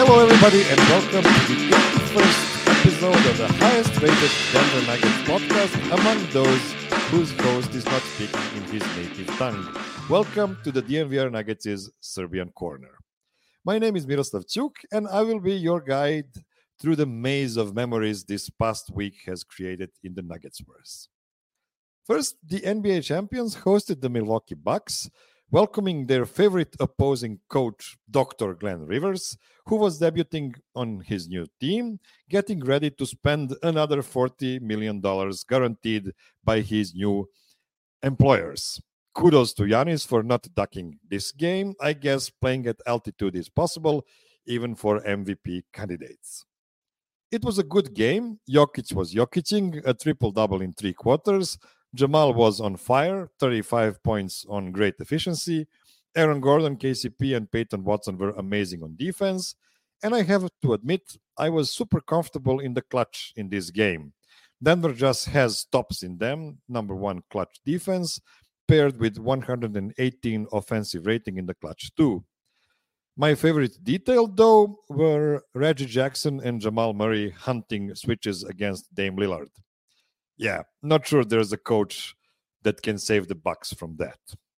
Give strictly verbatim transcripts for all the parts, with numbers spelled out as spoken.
Hello, everybody, and welcome to the eighty-first episode of the highest-rated Denver Nuggets podcast among those whose host is not speaking in his native tongue. Welcome to the D N V R Nuggets' Serbian Corner. My name is Miroslav Ćuk, and I will be your guide through the maze of memories this past week has created in the Nuggets verse. First, the N B A champions hosted the Milwaukee Bucks, welcoming their favorite opposing coach, Doctor Glenn Rivers, who was debuting on his new team, getting ready to spend another forty million dollars guaranteed by his new employers. Kudos to Giannis for not ducking this game. I guess playing at altitude is possible, even for M V P candidates. It was a good game. Jokic was Jokicing, a triple-double in three quarters. Jamal was on fire, thirty-five points on great efficiency. Aaron Gordon, K C P, and Peyton Watson were amazing on defense. And I have to admit, I was super comfortable in the clutch in this game. Denver just has tops in them, number one clutch defense, paired with one hundred eighteen offensive rating in the clutch too. My favorite detail, though, were Reggie Jackson and Jamal Murray hunting switches against Dame Lillard. Yeah, not sure there's a coach that can save the Bucks from that.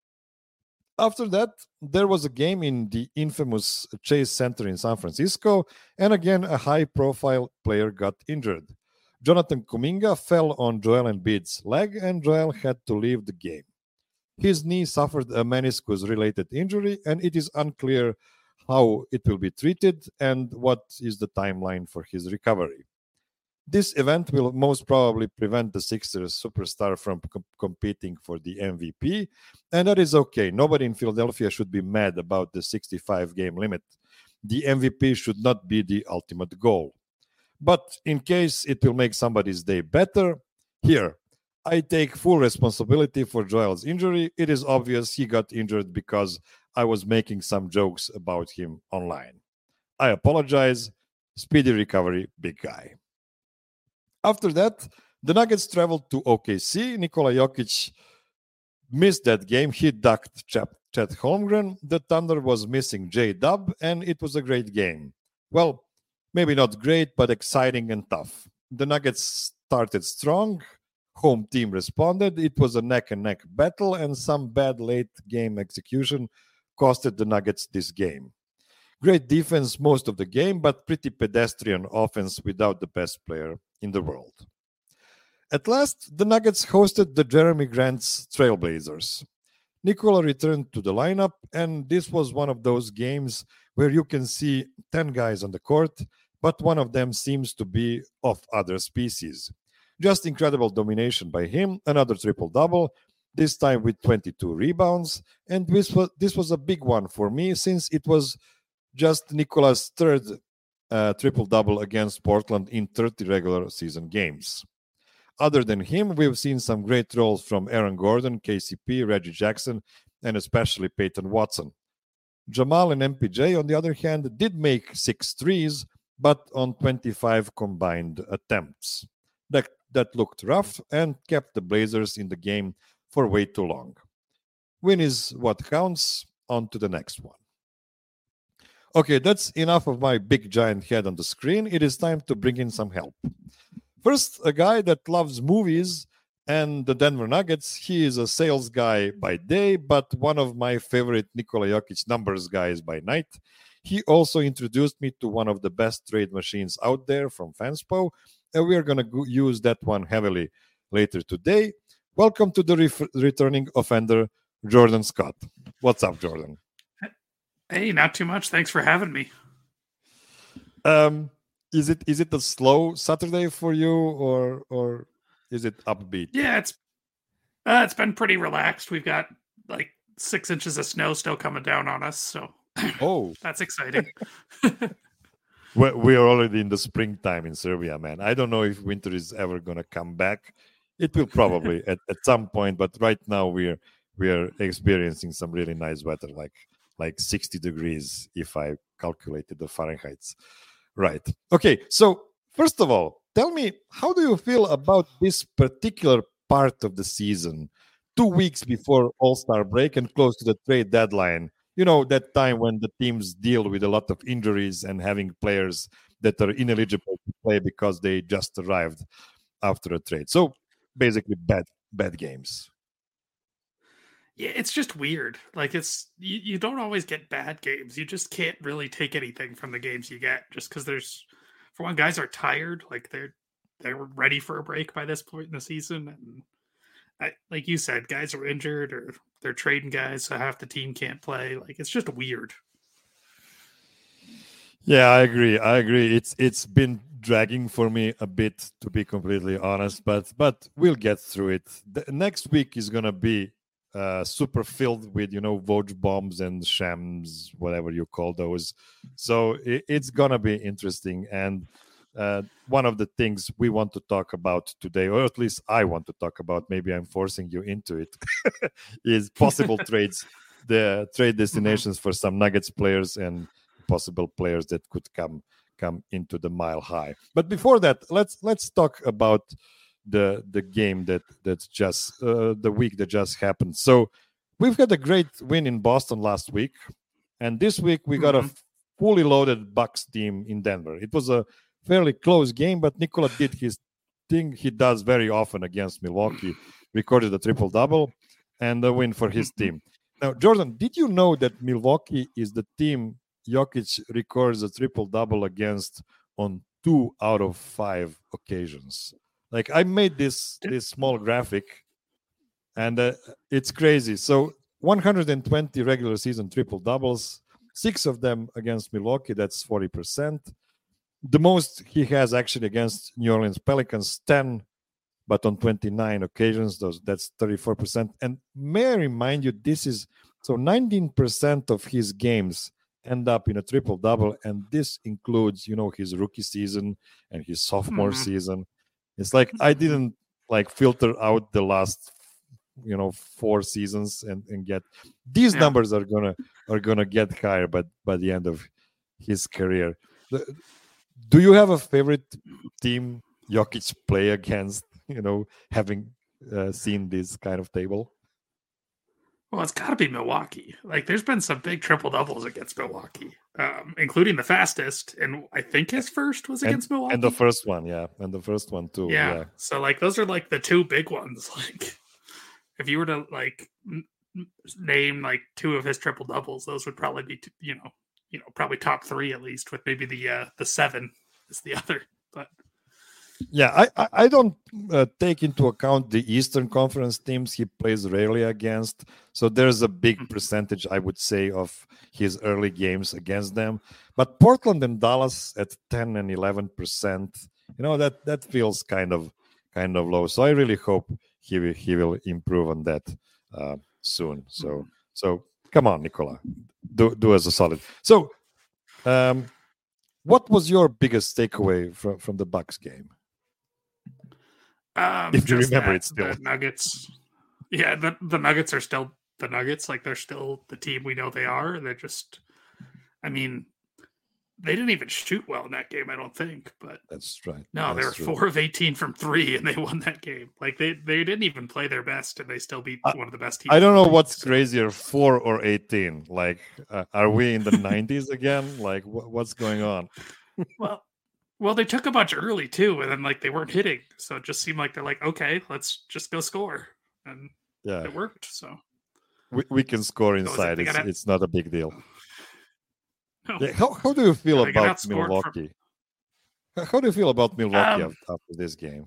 After that, there was a game in the infamous Chase Center in San Francisco, and again, a high-profile player got injured. Jonathan Kuminga fell on Joel Embiid's leg, and Joel had to leave the game. His knee suffered a meniscus-related injury, and it is unclear how it will be treated and what is the timeline for his recovery. This event will most probably prevent the Sixers superstar from com- competing for the M V P, and that is okay. Nobody in Philadelphia should be mad about the sixty-five game limit. The M V P should not be the ultimate goal. But in case it will make somebody's day better, here, I take full responsibility for Joel's injury. It is obvious he got injured because I was making some jokes about him online. I apologize. Speedy recovery, big guy. After that, the Nuggets traveled to O K C. Nikola Jokic missed that game. He ducked Chet Holmgren. The Thunder was missing J-Dub, and it was a great game. Well, maybe not great, but exciting and tough. The Nuggets started strong. Home team responded. It was a neck-and-neck battle, and some bad late-game execution costed the Nuggets this game. Great defense most of the game, but pretty pedestrian offense without the best player in the world. At last, the Nuggets hosted the Jeremy Grant's Trailblazers. Nikola returned to the lineup, and this was one of those games where you can see ten guys on the court, but one of them seems to be of other species. Just incredible domination by him, another triple-double, this time with twenty-two rebounds, and this was, this was a big one for me since it was just Nikola's third uh, triple-double against Portland in thirty regular season games. Other than him, we've seen some great roles from Aaron Gordon, K C P, Reggie Jackson, and especially Peyton Watson. Jamal and M P J, on the other hand, did make six threes, but on twenty-five combined attempts. That, that looked rough and kept the Blazers in the game for way too long. Win is what counts. On to the next one. Okay, that's enough of my big giant head on the screen. It is time to bring in some help. First, a guy that loves movies and the Denver Nuggets. He is a sales guy by day, but one of my favorite Nikola Jokic numbers guys by night. He also introduced me to one of the best trade machines out there from Fanspo, and we are going to go- use that one heavily later today. Welcome to the ref- returning offender, Jordan Scott. What's up, Jordan? Hey, not too much. Thanks for having me. Um, is it is it a slow Saturday for you, or or is it upbeat? Yeah, it's uh, it's been pretty relaxed. We've got like six inches of snow still coming down on us, so Oh, that's exciting. we we are already in the springtime in Serbia, man. I don't know if winter is ever gonna come back. It will probably at, at some point, but right now we're we are experiencing some really nice weather, like like sixty degrees if I calculated the Fahrenheits. Right. Okay. So first of all, tell me, how do you feel about this particular part of the season? Two weeks before All-Star break and close to the trade deadline. you know, that time when the teams deal with a lot of injuries and having players that are ineligible to play because they just arrived after a trade. So basically, bad bad games. Yeah, it's just weird. Like it's you, you don't always get bad games. You just can't really take anything from the games you get just because there's for one, guys are tired, like they're they're ready for a break by this point in the season. And I, like you said, guys are injured or they're trading guys, so half the team can't play. Like it's just weird. Yeah, I agree. I agree. It's it's been dragging for me a bit, to be completely honest, but but we'll get through it. The next week is gonna be uh, super filled with, you know, Woj bombs and shams, whatever you call those. So it, it's gonna be interesting. And uh, one of the things we want to talk about today, or at least I want to talk about, maybe I'm forcing you into it, is possible trades, the trade destinations for some Nuggets players and possible players that could come come into the mile high. But before that, let's let's talk about the the game that that's just uh, the week that just happened. So we've had a great win in Boston last week, and this week we got mm-hmm. a fully loaded Bucks team in Denver. It was a fairly close game, but Nikola did his thing he does very often against Milwaukee, recorded a triple double and a win for his team. Now, Jordan, did you know that Milwaukee is the team Jokic records a triple double against on two out of five occasions? Like, I made this this small graphic, and uh, it's crazy. So one hundred twenty regular season triple doubles, six of them against Milwaukee. That's forty percent. The most he has actually against New Orleans Pelicans, ten, but on twenty-nine occasions. Those that's thirty-four percent. And may I remind you, this is so nineteen percent of his games end up in a triple double, and this includes, you know, his rookie season and his sophomore mm-hmm. season. It's like I didn't like filter out the last, you know, four seasons and, and get these yeah. numbers are gonna are gonna get higher, but by the end of his career. The, do you have a favorite team Jokic play against? You know, having uh, seen this kind of table. Well, it's got to be Milwaukee. Like, there's been some big triple doubles against Milwaukee, um, including the fastest, and I think his first was against and, Milwaukee. And the first one, yeah, and the first one too. Yeah. yeah. So, like, those are like the two big ones. Like, if you were to like n- name like two of his triple doubles, those would probably be, t- you know, you know, probably top three at least. With maybe the uh, the seven is the other, but. Yeah, I, I don't uh, take into account the Eastern Conference teams he plays rarely against. So there's a big percentage, I would say, of his early games against them. But Portland and Dallas at ten and eleven percent, you know, that that feels kind of kind of low. So I really hope he will, he will improve on that uh, soon. So so come on, Nikola, do do us a solid. So, um, what was your biggest takeaway from from the Bucks game? Um, if you remember that, it still. The Nuggets. Yeah, the, the Nuggets are still the Nuggets. Like, they're still the team we know they are. They're just, I mean, they didn't even shoot well in that game, I don't think. But that's right. No, that's they were true. four of eighteen from three, and they won that game. Like, they, they didn't even play their best, and they still beat I, one of the best teams. I don't know what's so. crazier, four or eighteen. Like, uh, are we in the nineties again? Like, wh- what's going on? Well, Well, they took a bunch early too, and then like they weren't hitting, so it just seemed like they're like, okay, let's just go score, and yeah, it worked. So we we can score inside. So it's gotta... it's not a big deal. No. Yeah, how how do you feel yeah, about Milwaukee? From... How do you feel about Milwaukee um, after this game?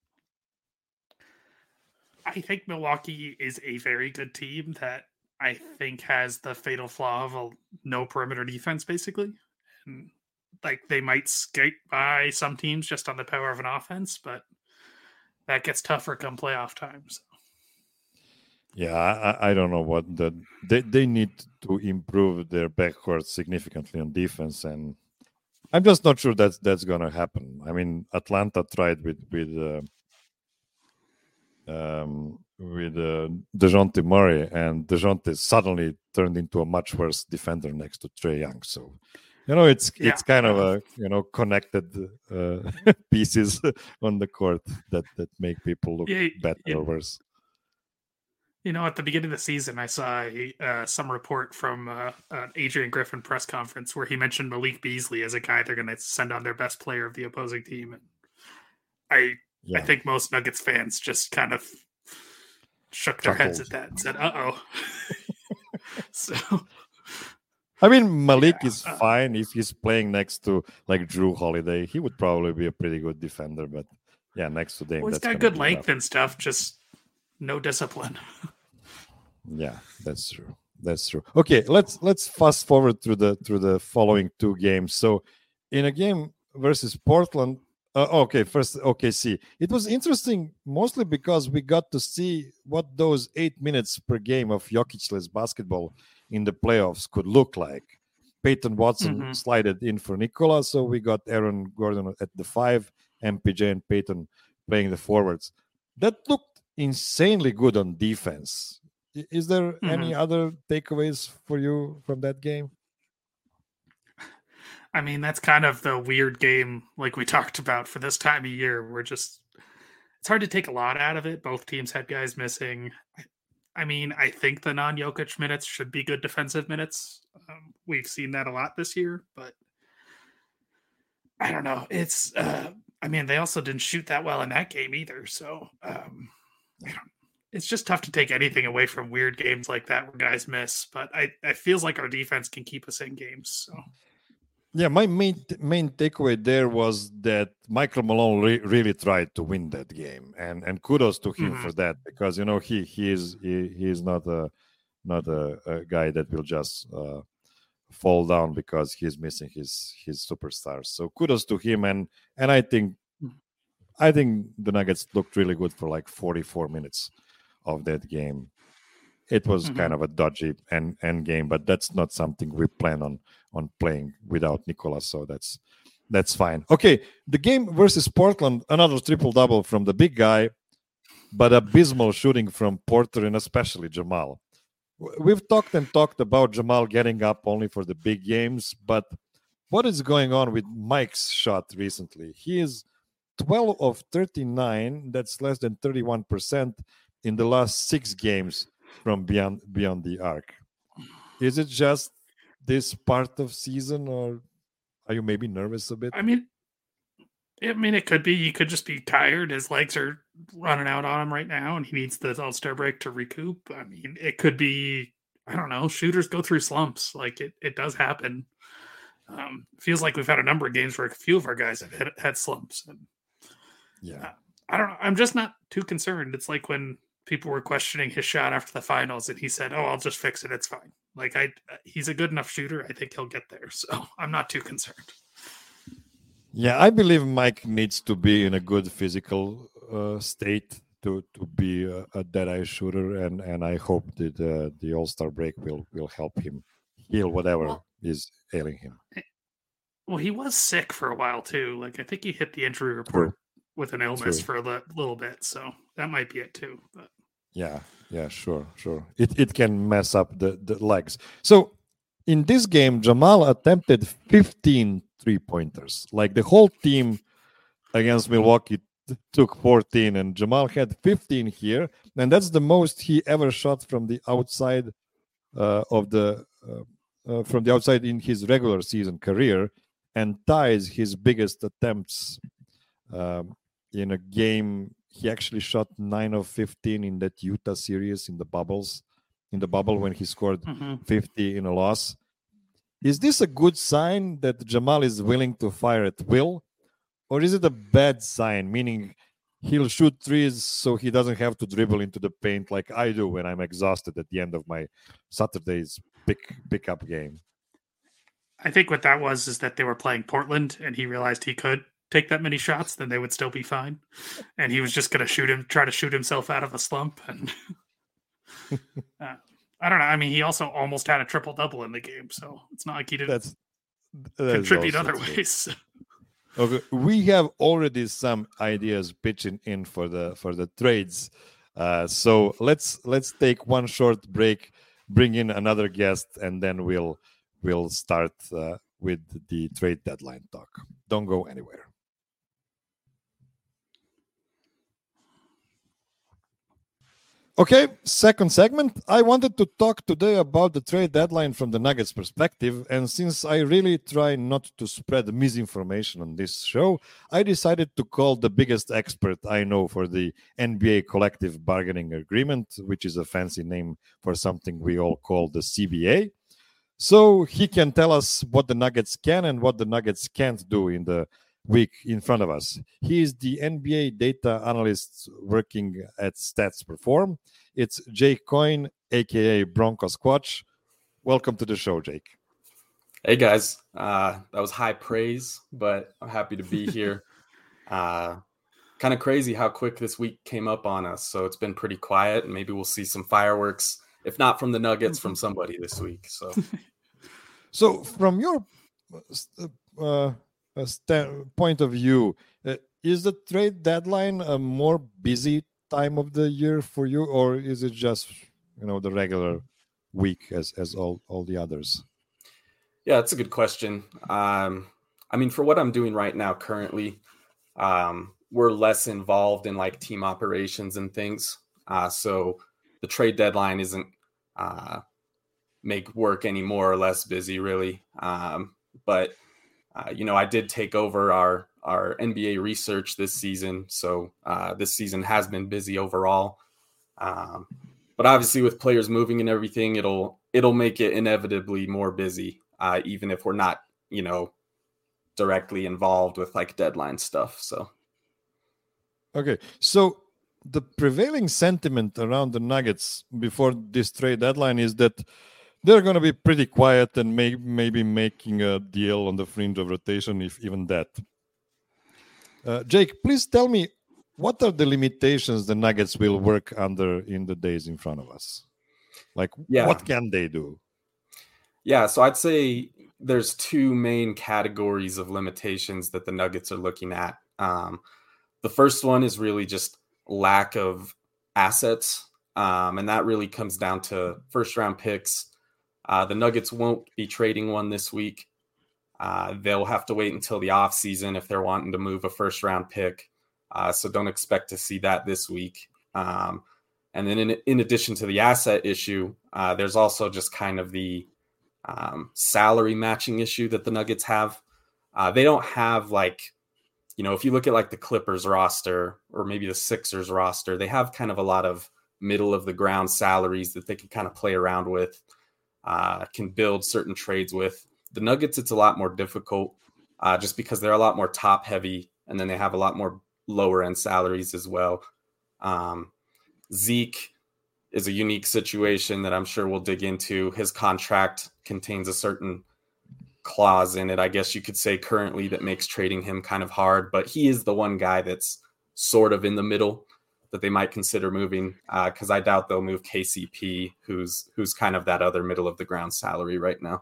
I think Milwaukee is a very good team that I think has the fatal flaw of a no perimeter defense, basically. And like they might skate by some teams just on the power of an offense, but that gets tougher come playoff times. Yeah, I, I don't know what the they, they need to improve their backcourt significantly on defense, and I'm just not sure that's that's gonna happen. I mean, Atlanta tried with with uh, um, with uh, DeJounte Murray, and DeJounte suddenly turned into a much worse defender next to Trae Young. So. You know, it's yeah. it's kind of a you know connected uh, pieces on the court that, that make people look yeah, better yeah. or worse. You know, at the beginning of the season, I saw a, uh, some report from uh, an Adrian Griffin press conference where he mentioned Malik Beasley as a guy they're going to send on their best player of the opposing team. And I, I Yeah, think most Nuggets fans just kind of shook their heads at chuckled. that and said, "Uh oh." So, I mean, Malik yeah, is uh, fine if he's playing next to like Drew Holiday. He would probably be a pretty good defender, but yeah, next to Dame, well, he's that's got gonna good be rough. length and stuff, just no discipline. Yeah, that's true. That's true. Okay, let's let's fast forward through the through the following two games. So, in a game versus Portland, uh, okay, first O K C. It was interesting mostly because we got to see what those eight minutes per game of Jokic-less basketball in the playoffs could look like. Peyton Watson hmm slided in for Nikola, so we got Aaron Gordon at the five, M P J and Peyton playing the forwards. That looked insanely good on defense. I- Is there hmm any other takeaways for you from that game? I mean, that's kind of the weird game, like we talked about for this time of year. We're just it's hard to take a lot out of it. Both teams had guys missing. I mean, I think the non-Jokic minutes should be good defensive minutes. Um, we've seen that a lot this year, but I don't know. It's, uh, I mean, they also didn't shoot that well in that game either. So um, I don't. It's just tough to take anything away from weird games like that where guys miss. But I, it feels like our defense can keep us in games. So Yeah, my main main takeaway there was that Michael Malone re- really tried to win that game, and and kudos to him mhm. for that, because you know he he is he, he is not a not a, a guy that will just uh, fall down because he's missing his his superstars. So kudos to him, and and I think I think the Nuggets looked really good for like forty-four minutes of that game. It was Mhm. kind of a dodgy end, end game, but that's not something we plan on on playing without Nicola. So that's that's fine. Okay, the game versus Portland, another triple double from the big guy, but abysmal shooting from Porter and especially Jamal. W- We've talked and talked about Jamal getting up only for the big games, but what is going on with Mike's shot recently? He is twelve of thirty-nine, that's less than thirty-one percent in the last six games from beyond beyond the arc. Is it just this part of season, or are you maybe nervous a bit? I mean, I mean, it could be. He could just be tired. His legs are running out on him right now, and he needs the All Star break to recoup. I mean, it could be. I don't know. Shooters go through slumps. Like it, it does happen. Um, feels like we've had a number of games where a few of our guys have had, had slumps. And Yeah. uh, I don't know. I'm just not too concerned. It's like when people were questioning his shot after the finals, and he said, "Oh, I'll just fix it. It's fine." Like I, he's a good enough shooter. I think he'll get there. So I'm not too concerned. Yeah, I believe Mike needs to be in a good physical uh, state to to be a, a dead eye shooter, and and I hope that uh, the All Star break will will help him heal whatever Well, is ailing him. Well, he was sick for a while too. Like I think he hit the injury report True, with an illness true. for a li- little bit, so that might be it too. But Yeah, yeah, sure, sure. It it can mess up the the legs. So in this game, Jamal attempted fifteen three pointers. Like the whole team against Milwaukee t- took fourteen, and Jamal had fifteen here, and that's the most he ever shot from the outside uh, of the uh, uh, from the outside in his regular season career, and ties his biggest attempts um, in a game. He actually shot nine of fifteen in that Utah series in the bubbles, in the bubble when he scored mhm. fifty in a loss. Is this a good sign that Jamal is willing to fire at will, or is it a bad sign, meaning he'll shoot threes so he doesn't have to dribble into the paint like I do when I'm exhausted at the end of my Saturday's pick pickup game? I think what that was is that they were playing Portland, and he realized he could take that many shots, then they would still be fine, and he was just going to shoot him, try to shoot himself out of a slump. And uh, I don't know. I mean, he also almost had a triple double in the game, so it's not like he didn't That's that is contribute also other true. ways. Okay, we have already some ideas pitching in for the for the trades. Uh, so let's let's take one short break, bring in another guest, and then we'll we'll start uh, with the trade deadline talk. Don't go anywhere. Okay, second segment. I wanted to talk today about the trade deadline from the Nuggets perspective. And since I really try not to spread misinformation on this show, I decided to call the biggest expert I know for the N B A collective bargaining agreement, which is a fancy name for something we all call the C B A. So he can tell us what the Nuggets can and what the Nuggets can't do in the week in front of us. He is the N B A data analyst working at Stats Perform. It's Jake Coyne, aka Bronco Squatch. Welcome to the show, Jake. Hey guys, uh, that was high praise, but I'm happy to be here. uh, kind of crazy how quick this week came up on us. So it's been pretty quiet, and maybe we'll see some fireworks, if not from the Nuggets, from somebody this week. So, so from your uh, A st- point of view, uh, is the trade deadline a more busy time of the year for you, or is it just, you know, the regular week as as all all the others? Yeah, that's a good question. Um, I mean, for what I'm doing right now, currently, um, we're less involved in like team operations and things, uh, so the trade deadline isn't uh, make work any more or less busy, really. Um, but Uh, you know, I did take over our our N B A research this season, so uh, this season has been busy overall. Um, but obviously, with players moving and everything, it'll it'll make it inevitably more busy, uh, even if we're not, you know, directly involved with like deadline stuff. So, okay, so the prevailing sentiment around the Nuggets before this trade deadline is that they're going to be pretty quiet and may, maybe making a deal on the fringe of rotation, if even that. Uh, Jake, please tell me, what are the limitations the Nuggets will work under in the days in front of us? Like, yeah. What can they do? Yeah, so I'd say there's two main categories of limitations that the Nuggets are looking at. Um, the first one is really just lack of assets, um, and that really comes down to first-round picks. Uh, the Nuggets won't be trading one this week. Uh, they'll have to wait until the offseason if they're wanting to move a first round pick. Uh, so don't expect to see that this week. Um, and then in, in addition to the asset issue, uh, there's also just kind of the um, salary matching issue that the Nuggets have. Uh, they don't have like, you know, if you look at like the Clippers roster or maybe the Sixers roster, they have kind of a lot of middle of the ground salaries that they can kind of play around with. Uh, can build certain trades with. The Nuggets, it's a lot more difficult uh, just because they're a lot more top heavy, and then they have a lot more lower end salaries as well. Um, Zeke is a unique situation that I'm sure we'll dig into. His contract contains a certain clause in it, I guess you could say currently, that makes trading him kind of hard, but he is the one guy that's sort of in the middle that they might consider moving, because uh, I doubt they'll move K C P, who's who's kind of that other middle of the ground salary right now.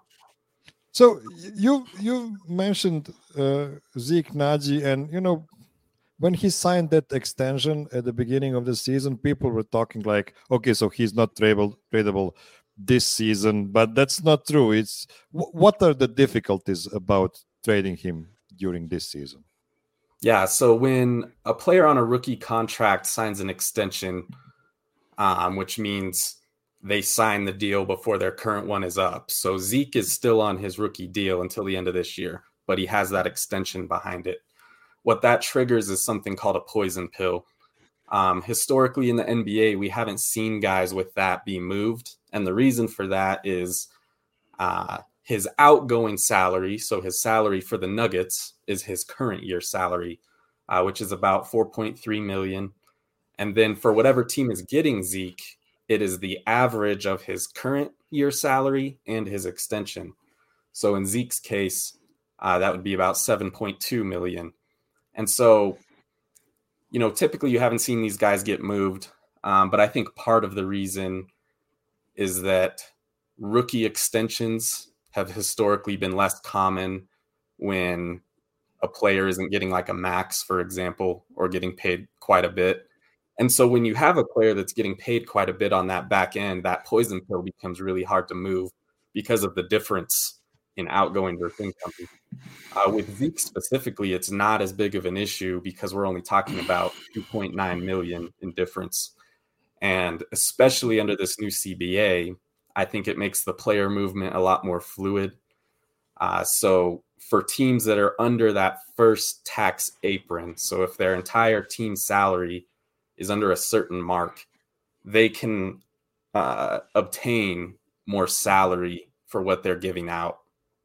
So you you mentioned uh, Zeke Nnaji, and you know, when he signed that extension at the beginning of the season, people were talking like, okay, so he's not tradable tradable this season, but that's not true. It's w- what are the difficulties about trading him during this season? Yeah, so when a player on a rookie contract signs an extension, um, which means they sign the deal before their current one is up. So Zeke is still on his rookie deal until the end of this year, but he has that extension behind it. What that triggers is something called a poison pill. Um, historically in the N B A, we haven't seen guys with that be moved. And the reason for that is uh, his outgoing salary, so his salary for the Nuggets, is his current year salary, uh, which is about four point three million dollars. And then for whatever team is getting Zeke, it is the average of his current year salary and his extension. So in Zeke's case, uh, that would be about seven point two million dollars. And so, you know, typically you haven't seen these guys get moved, um, but I think part of the reason is that rookie extensions have historically been less common when a player isn't getting like a max, for example, or getting paid quite a bit. And so when you have a player that's getting paid quite a bit on that back end, that poison pill becomes really hard to move because of the difference in outgoing versus income. Uh, with Zeke specifically, it's not as big of an issue because we're only talking about two point nine million in difference. And especially under this new C B A, I think it makes the player movement a lot more fluid. Uh, so for teams that are under that first tax apron, so if their entire team salary is under a certain mark, they can uh, obtain more salary for what they're giving out.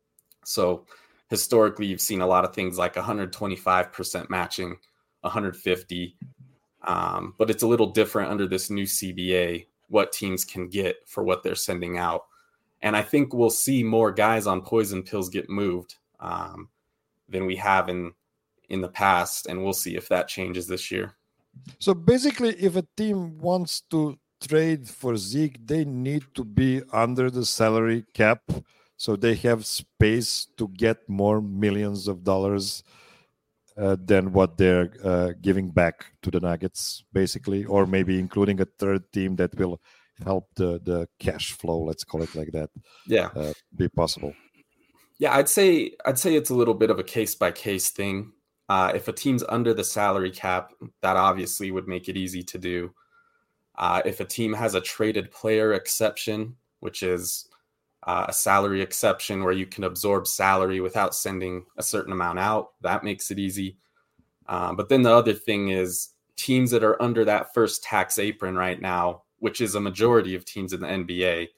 So historically, you've seen a lot of things like one hundred twenty-five percent matching, one hundred fifty, um, but it's a little different under this new C B A, what teams can get for what they're sending out. And I think we'll see more guys on poison pills get moved um, than we have in in the past, and we'll see if that changes this year. So basically, if a team wants to trade for Zeke, they need to be under the salary cap, so they have space to get more millions of dollars uh, than what they're uh, giving back to the Nuggets, basically, or maybe including a third team that will help the the cash flow, let's call it like that, yeah uh, be possible. Yeah, I'd say I'd say it's a little bit of a case by case thing. Uh, if a team's under the salary cap, that obviously would make it easy to do. Uh, if a team has a traded player exception, which is uh, a salary exception where you can absorb salary without sending a certain amount out, that makes it easy. Um, but then the other thing is teams that are under that first tax apron right now, which is a majority of teams in the N B A,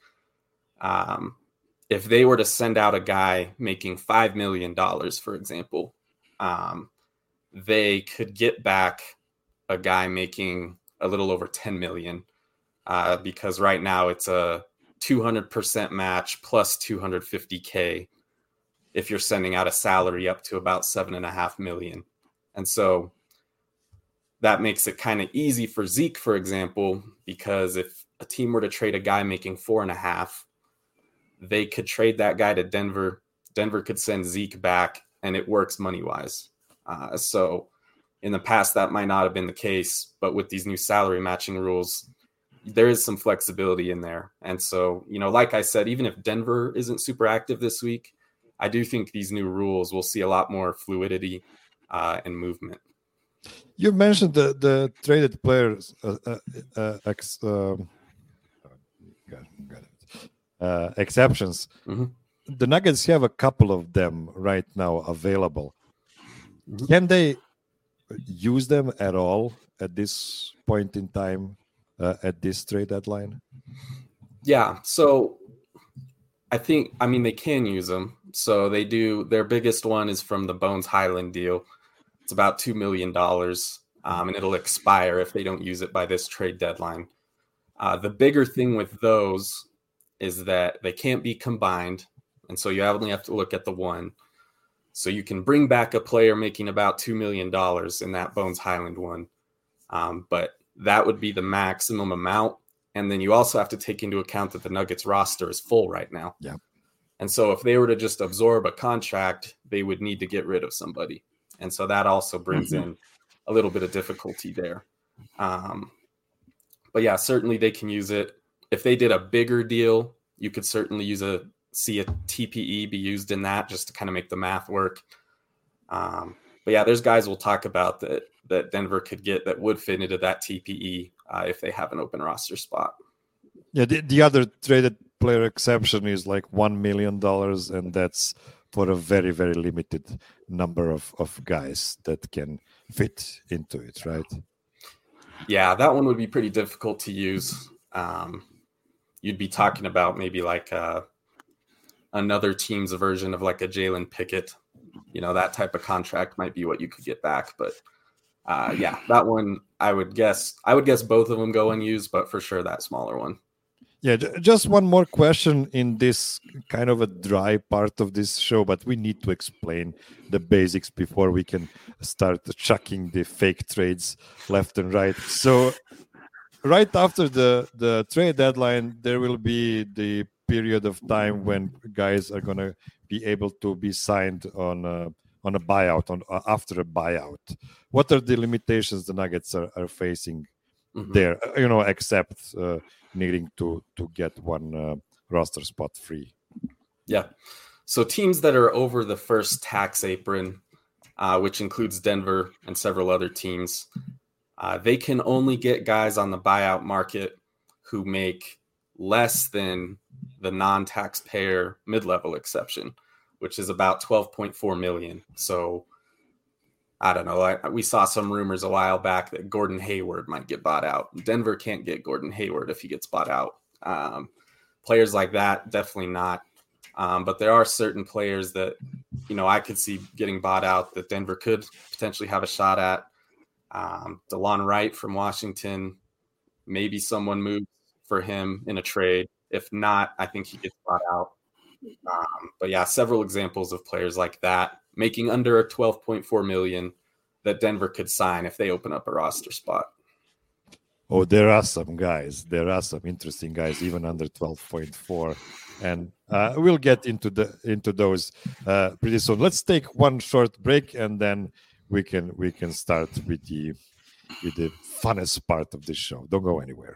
um, if they were to send out a guy making five million dollars, for example, um, they could get back a guy making a little over ten million dollars uh, because right now it's a two hundred percent match plus two hundred fifty K if you're sending out a salary up to about seven and a half million. And so that makes it kind of easy for Zeke, for example, because if a team were to trade a guy making four and a half, they could trade that guy to Denver. Denver could send Zeke back, and it works money-wise. Uh, so in the past, that might not have been the case, but with these new salary matching rules, there is some flexibility in there. And so, you know, like I said, even if Denver isn't super active this week, I do think these new rules will see a lot more fluidity uh, and movement. You mentioned the, the traded players uh, uh, uh, ex, um, got, got it. Uh, exceptions. Mm-hmm. The Nuggets have a couple of them right now available. Mm-hmm. Can they use them at all at this point in time, uh, at this trade deadline? Yeah, so I think, I mean, they can use them. So they do. Their biggest one is from the Bones Highland deal. It's about two million dollars, um, and it'll expire if they don't use it by this trade deadline. Uh, the bigger thing with those is that they can't be combined, and so you only have to look at the one. So you can bring back a player making about two million dollars in that Bones Highland one, um, but that would be the maximum amount. And then you also have to take into account that the Nuggets roster is full right now. Yeah. And so if they were to just absorb a contract, they would need to get rid of somebody. And so that also brings mm-hmm. in a little bit of difficulty there. Um, but yeah, certainly they can use it. If they did a bigger deal, you could certainly use a see a T P E be used in that just to kind of make the math work. Um, but yeah, there's guys we'll talk about that that Denver could get that would fit into that T P E uh, if they have an open roster spot. Yeah, the, the other traded player exception is like one million dollars, and that's for a very, very limited number of, of guys that can fit into it, right? Yeah, that one would be pretty difficult to use. Um, you'd be talking about maybe like uh, another team's version of like a Jalen Pickett. You know, that type of contract might be what you could get back. But uh, yeah, that one, I would guess, I would guess both of them go unused, but for sure that smaller one. Yeah, just one more question in this kind of a dry part of this show, but we need to explain the basics before we can start chucking the fake trades left and right. So right after the, the trade deadline, there will be the period of time when guys are going to be able to be signed on a, on a buyout, on uh, after a buyout. What are the limitations the Nuggets are, are facing mm-hmm. there, you know, except... Uh, needing to to get one uh, roster spot free? Yeah. So teams that are over the first tax apron, uh, which includes Denver and several other teams, Uh, they can only get guys on the buyout market who make less than the non-taxpayer mid-level exception, which is about twelve point four million. So I don't know. I, we saw some rumors a while back that Gordon Hayward might get bought out. Denver can't get Gordon Hayward if he gets bought out. Um, players like that, definitely not. Um, but there are certain players that, you know, I could see getting bought out that Denver could potentially have a shot at. Um, DeLon Wright from Washington, maybe someone moves for him in a trade. If not, I think he gets bought out. Um, but yeah, several examples of players like that making under a twelve point four million that Denver could sign if they open up a roster spot. Oh, there are some guys. There are some interesting guys, even under twelve point four, and uh, we'll get into the into those uh, pretty soon. Let's take one short break, and then we can we can start with the with the funnest part of this show. Don't go anywhere.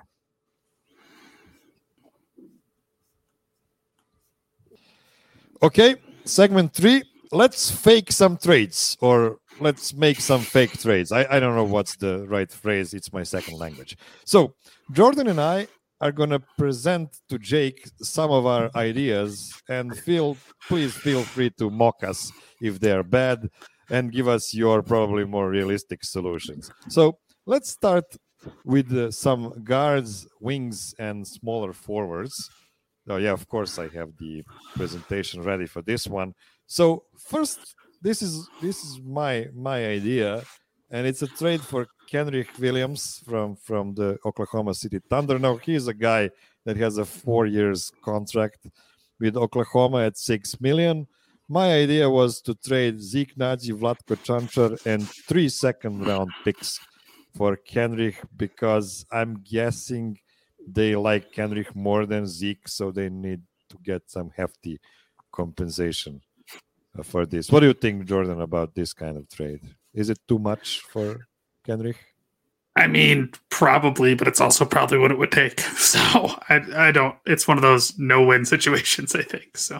Okay, segment three. Let's fake some trades, or let's make some fake trades. I, I don't know what's the right phrase. It's my second language. So Jordan and I are going to present to Jake some of our ideas, and feel please feel free to mock us if they're bad and give us your probably more realistic solutions. So let's start with uh, some guards, wings, and smaller forwards. Oh, yeah, of course, I have the presentation ready for this one. So first, this is this is my my idea, and it's a trade for Kenrich Williams from, from the Oklahoma City Thunder. Now, he's a guy that has a four years contract with Oklahoma at six million dollars. My idea was to trade Zeke Naji, Vlatko Čančar, and three second-round picks for Kenrich, because I'm guessing they like Kenrich more than Zeke, so they need to get some hefty compensation for this. What do you think, Jordan, about this kind of trade? Is it too much for Kenrich? I mean, probably, but it's also probably what it would take. So I, I don't. It's one of those no-win situations, I think. So,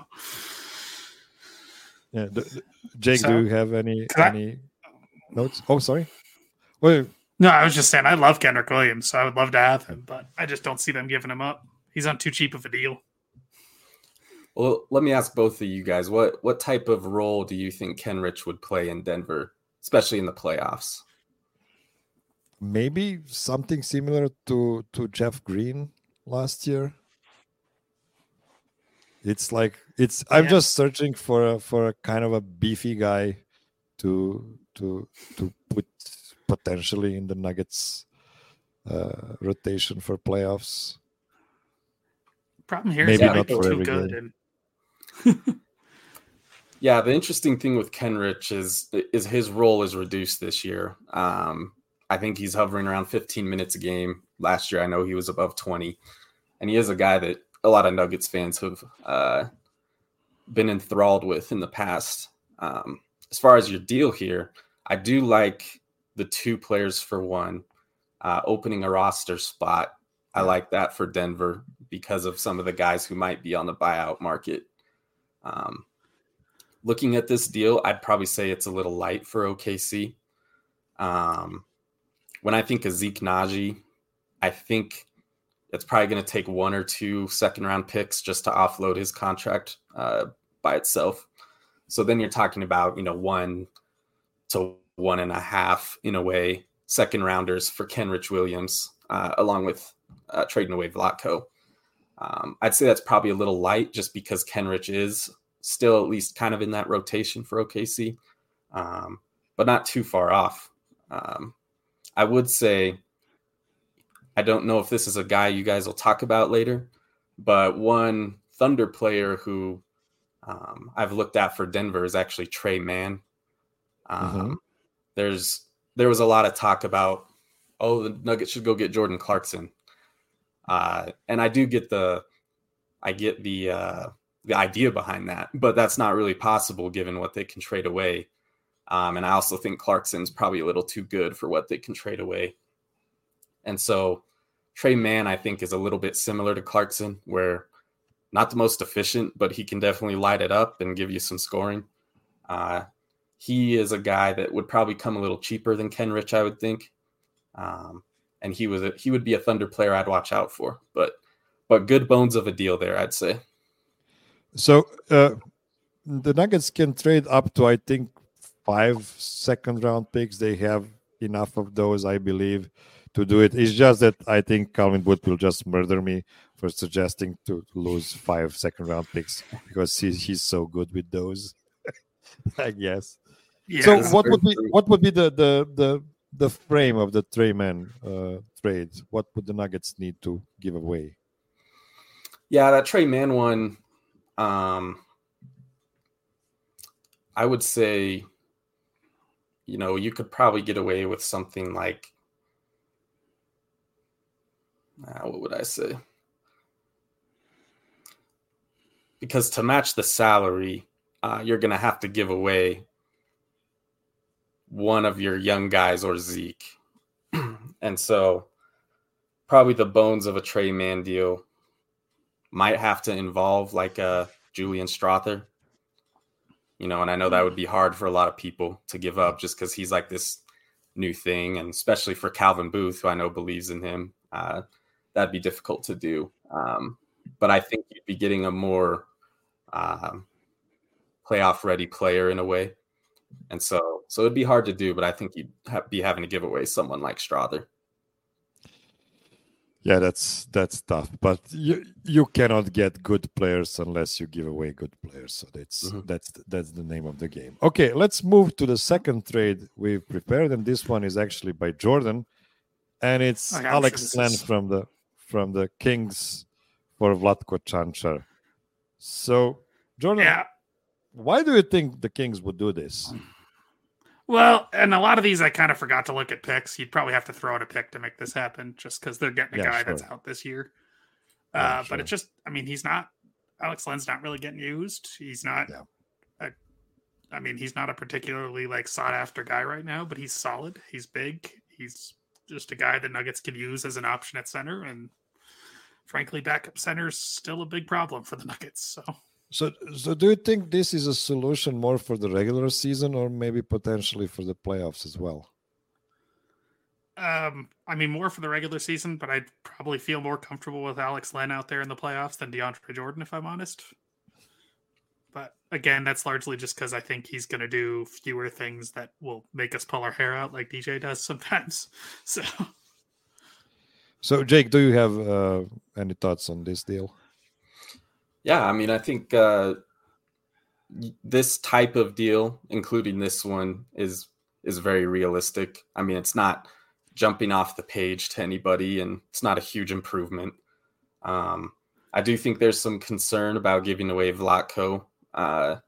yeah, d- d- Jake, so, do you have any I, any notes? Oh, sorry. Well, no, I was just saying I love Kenrich Williams, so I would love to have him, but I just don't see them giving him up. He's on too cheap of a deal. Well, let me ask both of you guys, what what type of role do you think Kenrich would play in Denver, especially in the playoffs? Maybe something similar to, to Jeff Green last year. It's like it's. I'm yeah. just searching for a, for a kind of a beefy guy to to to put potentially in the Nuggets uh, rotation for playoffs. Problem here Maybe is not for too every good. game. And... yeah, the interesting thing with Kenrich is is his role is reduced this year. Um, I think he's hovering around fifteen minutes a game. Last year, I know he was above twenty, and he is a guy that a lot of Nuggets fans have uh, been enthralled with in the past. Um, as far as your deal here, I do like the two players for one, uh, opening a roster spot. I like that for Denver because of some of the guys who might be on the buyout market. Um, looking at this deal, I'd probably say it's a little light for O K C. Um, when I think of Zeke Naji, I think it's probably going to take one or two second round picks just to offload his contract uh, by itself. So then you're talking about, you know, one to one and a half in a way, second rounders for Kenrich Williams, uh, along with uh, trading away Vlatko. Um, I'd say that's probably a little light just because Kenrich is still at least kind of in that rotation for O K C, um, but not too far off. Um, I would say, I don't know if this is a guy you guys will talk about later, but one Thunder player who um, I've looked at for Denver is actually Trey Mann. Um, mm-hmm. There's there was a lot of talk about, oh, the Nuggets should go get Jordan Clarkson, uh, and I do get the, I get the uh, the idea behind that, but that's not really possible given what they can trade away. Um, and I also think Clarkson's probably a little too good for what they can trade away. And so Trey Mann, I think, is a little bit similar to Clarkson, where not the most efficient, but he can definitely light it up and give you some scoring. Uh, he is a guy that would probably come a little cheaper than Kenrich, I would think. Um, and he was a, he would be a Thunder player I'd watch out for. But but good bones of a deal there, I'd say. So uh, the Nuggets can trade up to, I think, five second round picks. They have enough of those, I believe, to do it. It's just that I think Calvin Booth will just murder me for suggesting to lose five second round picks because he's he's so good with those. I guess. Yeah, so that's what very would be true. what would be the the the, the frame of the Trey Man uh, trade? What would the Nuggets need to give away? Yeah, that Trey Mann one, um, I would say, you know, you could probably get away with something like, uh, what would I say? Because to match the salary, uh, you're going to have to give away one of your young guys or Zeke. And so probably the bones of a Trey Mann deal might have to involve like a Julian Strother. You know, and I know that would be hard for a lot of people to give up just because he's like this new thing. And especially for Calvin Booth, who I know believes in him, uh, that'd be difficult to do. Um, but I think you'd be getting a more um, playoff ready player in a way. And so so it'd be hard to do, but I think you'd have, be having to give away someone like Strother. Yeah, that's that's tough. But you you cannot get good players unless you give away good players. So that's Mhm. that's that's the name of the game. Okay, let's move to the second trade we've prepared, and this one is actually by Jordan, and it's Okay, I'm Alex sure this Len is- from the from the Kings for Vlatko Čančar. So Jordan, Yeah. why do you think the Kings would do this? Well, and a lot of these I kind of forgot to look at picks. You'd probably have to throw out a pick to make this happen just because they're getting a Yeah, guy sure. that's out this year. Yeah, Uh, sure. But it's just, I mean, he's not, Alex Len's not really getting used. He's not, Yeah. a, I mean, he's not a particularly like sought after guy right now, but he's solid. He's big. He's just a guy the Nuggets can use as an option at center. And frankly, backup center's still a big problem for the Nuggets. So. So, so do you think this is a solution more for the regular season or maybe potentially for the playoffs as well? Um, I mean, more for the regular season, but I'd probably feel more comfortable with Alex Len out there in the playoffs than DeAndre Jordan, if I'm honest. But again, that's largely just because I think he's going to do fewer things that will make us pull our hair out like D J does sometimes. So, So, Jake, do you have uh, any thoughts on this deal? Yeah, I mean, I think uh, this type of deal, including this one, is is very realistic. I mean, it's not jumping off the page to anybody, and it's not a huge improvement. Um, I do think there's some concern about giving away Vlatko, uh,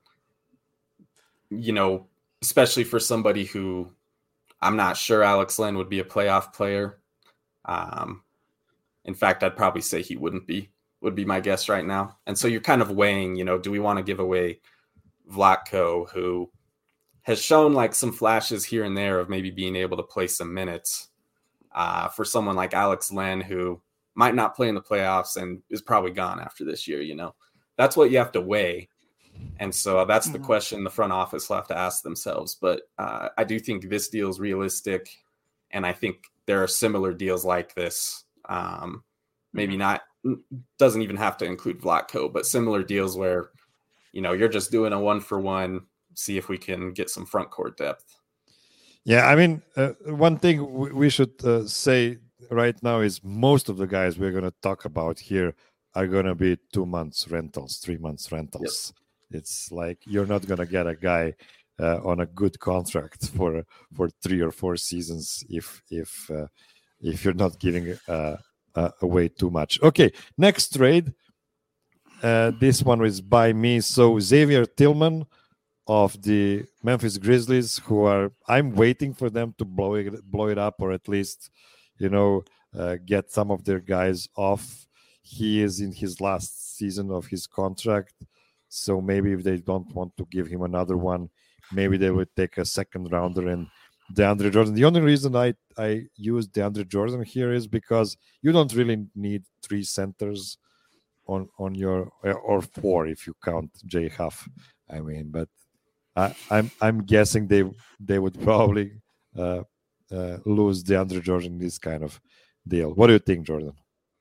you know, especially for somebody who I'm not sure Alex Len would be a playoff player. Um, in fact, I'd probably say he wouldn't be. Would be my guess right now. And so you're kind of weighing, you know, do we want to give away Vlatko, who has shown like some flashes here and there of maybe being able to play some minutes uh, for someone like Alex Len, who might not play in the playoffs and is probably gone after this year, you know? That's what you have to weigh. And so that's the Mhm. question the front office will have to ask themselves. But uh, I do think this deal is realistic. And I think there are similar deals like this. Um, maybe Mhm. not, doesn't even have to include Vlatko, but similar deals where, you know, you're just doing a one for one, see if we can get some front court depth. Yeah, I mean, uh, one thing w- we should uh, say right now is most of the guys we're going to talk about here are going to be two months rentals, three months rentals. It's like you're not going to get a guy uh, on a good contract for for three or four seasons if if uh, if you're not giving uh, uh, away too much. Okay, next trade. Uh, this one is by me. So Xavier Tillman of the Memphis Grizzlies, who are I'm waiting for them to blow it blow it up, or at least, you know, uh, get some of their guys off. He is in his last season of his contract, so maybe if they don't want to give him another one, maybe they would take a second rounder and DeAndre Jordan. The only reason I I use DeAndre Jordan here is because you don't really need three centers on on your or four if you count Jay Huff. I mean, but I, I'm I'm guessing they they would probably uh, uh, lose DeAndre Jordan in this kind of deal. What do you think, Jordan?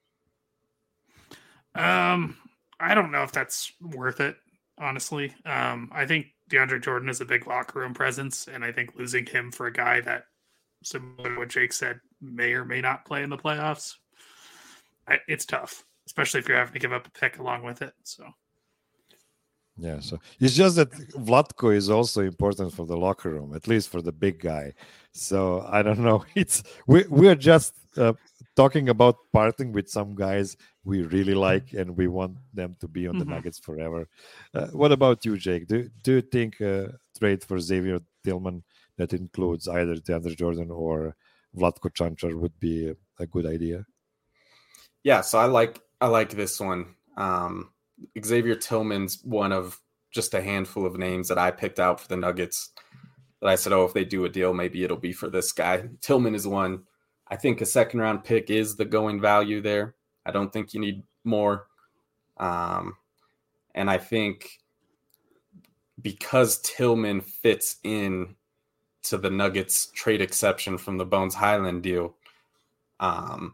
Um, I don't know if that's worth it, honestly. Um, I think DeAndre Jordan is a big locker room presence, and I think losing him for a guy that, similar to what Jake said, may or may not play in the playoffs, I, it's tough, especially if you're having to give up a pick along with it. So, yeah, so it's just that Vlatko is also important for the locker room, at least for the big guy. So I don't know. It's we we're just uh, talking about parting with some guys we really like, and we want them to be on the mm-hmm. Nuggets forever. Uh, what about you, Jake? Do do you think a trade for Xavier Tillman that includes either DeAndre Jordan or Vlatko Čančar would be a, a good idea? Yeah, so I like I like this one. Um, Xavier Tillman's one of just a handful of names that I picked out for the Nuggets that I said, oh, if they do a deal, maybe it'll be for this guy. Tillman is one. I think a second round pick is the going value there. I don't think you need more. Um, and I think because Tillman fits in to the Nuggets trade exception from the Bones Highland deal, um,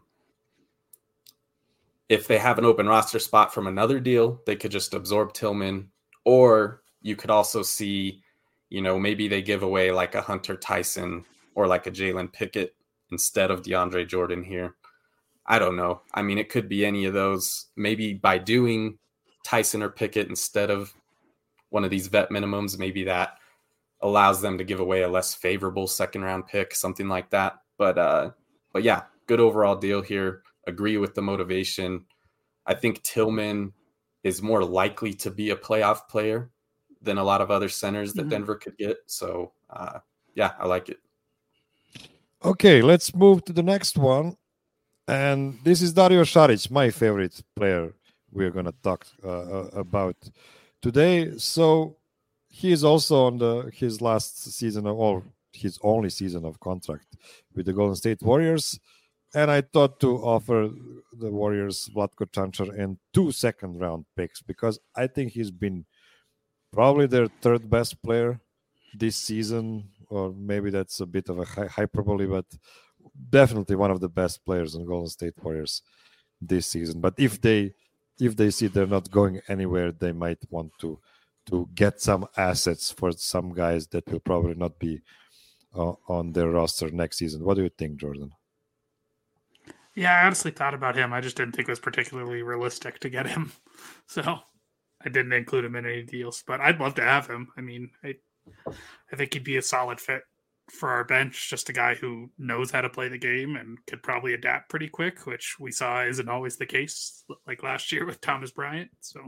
if they have an open roster spot from another deal, they could just absorb Tillman. Or you could also see, you know, maybe they give away like a Hunter Tyson or like a Jalen Pickett instead of DeAndre Jordan here. I don't know. I mean, it could be any of those. Maybe by doing Tyson or Pickett instead of one of these vet minimums, maybe that allows them to give away a less favorable second round pick, something like that. But, uh, but yeah, good overall deal here. Agree with the motivation. I think Tillman is more likely to be a playoff player than a lot of other centers that mm-hmm. Denver could get. So, uh, yeah, I like it. Okay, let's move to the next one. And this is Dario Saric, my favorite player we're going to talk uh, about today. So he is also on the his last season of, or his only season of contract with the Golden State Warriors. And I thought to offer the Warriors Vlatko Čančar and two second round picks because I think he's been probably their third best player this season, or maybe that's a bit of a hyperbole, but definitely one of the best players on Golden State Warriors this season. But if they if they see they're not going anywhere, they might want to to get some assets for some guys that will probably not be uh, on their roster next season. What do you think, Jordan? Yeah, I honestly thought about him. I just didn't think it was particularly realistic to get him. So I didn't include him in any deals, but I'd love to have him. I mean, I, I think he'd be a solid fit for our bench, just a guy who knows how to play the game and could probably adapt pretty quick, which we saw isn't always the case, like last year with Thomas Bryant. So,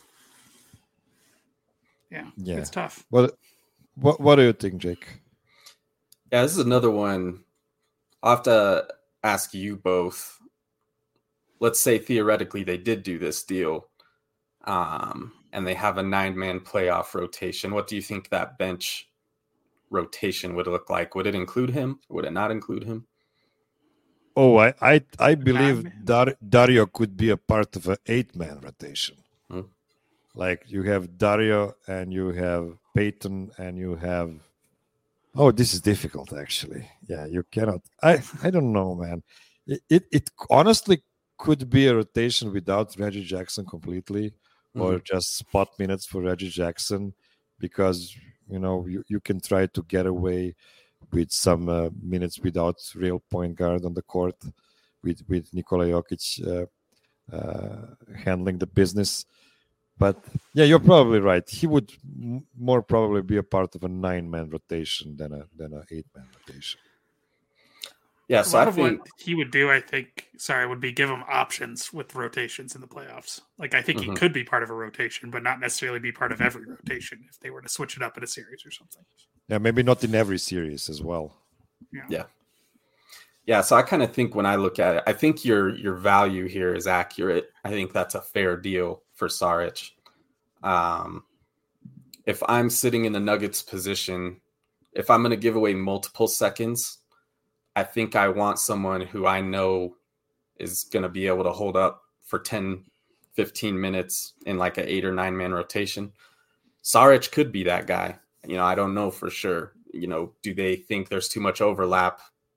yeah, yeah. It's tough. What, what, what do you think, Jake? Yeah, this is another one. I'll have to ask you both. Let's say theoretically they did do this deal um, and they have a nine-man playoff rotation. What do you think that bench rotation would look like? Would it include him? Would it not include him? Oh, I I, I believe Dar- Dario could be a part of an eight-man rotation. Hmm. Like you have Dario and you have Peyton and you have Oh, this is difficult, actually. Yeah, you cannot. I, I don't know, man. It, it it honestly could be a rotation without Reggie Jackson completely, mm-hmm. or just spot minutes for Reggie Jackson, because you know you, you can try to get away with some uh, minutes without real point guard on the court, with with Nikola Jokic uh, uh, handling the business. But yeah, you're probably right. He would m- more probably be a part of a nine-man rotation than a than an eight-man rotation. Yeah, so a lot I of think what he would do, I think, sorry, would be give him options with rotations in the playoffs. Like I think mm-hmm. he could be part of a rotation, but not necessarily be part of every rotation if they were to switch it up in a series or something. Yeah, maybe not in every series as well. Yeah. Yeah. Yeah, so I kind of think when I look at it, I think your your value here is accurate. I think that's a fair deal for Saric. Um, if I'm sitting in the Nuggets position, if I'm going to give away multiple seconds, I think I want someone who I know is going to be able to hold up for ten, fifteen minutes in like an eight or nine man rotation. Saric could be that guy. You know, I don't know for sure. You know, do they think there's too much overlap?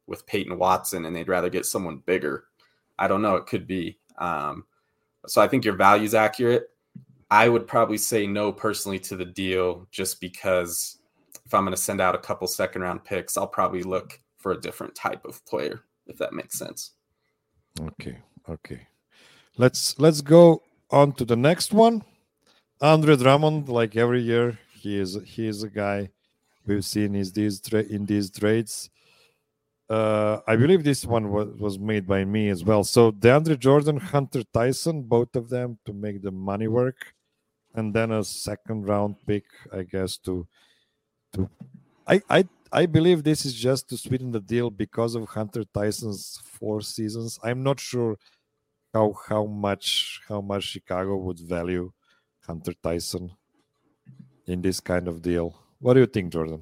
with Peyton Watson and they'd rather get someone bigger. I don't know. It could be. Um, so I think your value is accurate. I would probably say no personally to the deal, just because if I'm going to send out a couple second round picks, I'll probably look for a different type of player, if that makes sense. Okay. Okay. Let's let's go on to the next one. Andre Drummond, like every year, he is he is a guy we've seen is these tra- in these trades. Uh, I believe this one was, was made by me as well. So DeAndre Jordan, Hunter Tyson, both of them to make the money work, and then a second round pick, I guess, to to. I I I believe this is just to sweeten the deal because of Hunter Tyson's four seasons. I'm not sure how how much how much Chicago would value Hunter Tyson in this kind of deal. What do you think, Jordan?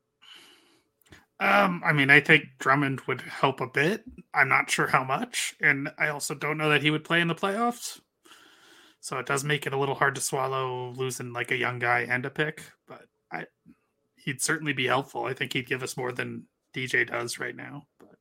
Um, I mean, I think Drummond would help a bit. I'm not sure how much, and I also don't know that he would play in the playoffs. So it does make it a little hard to swallow losing like a young guy and a pick, but I he'd certainly be helpful. I think he'd give us more than D J does right now. But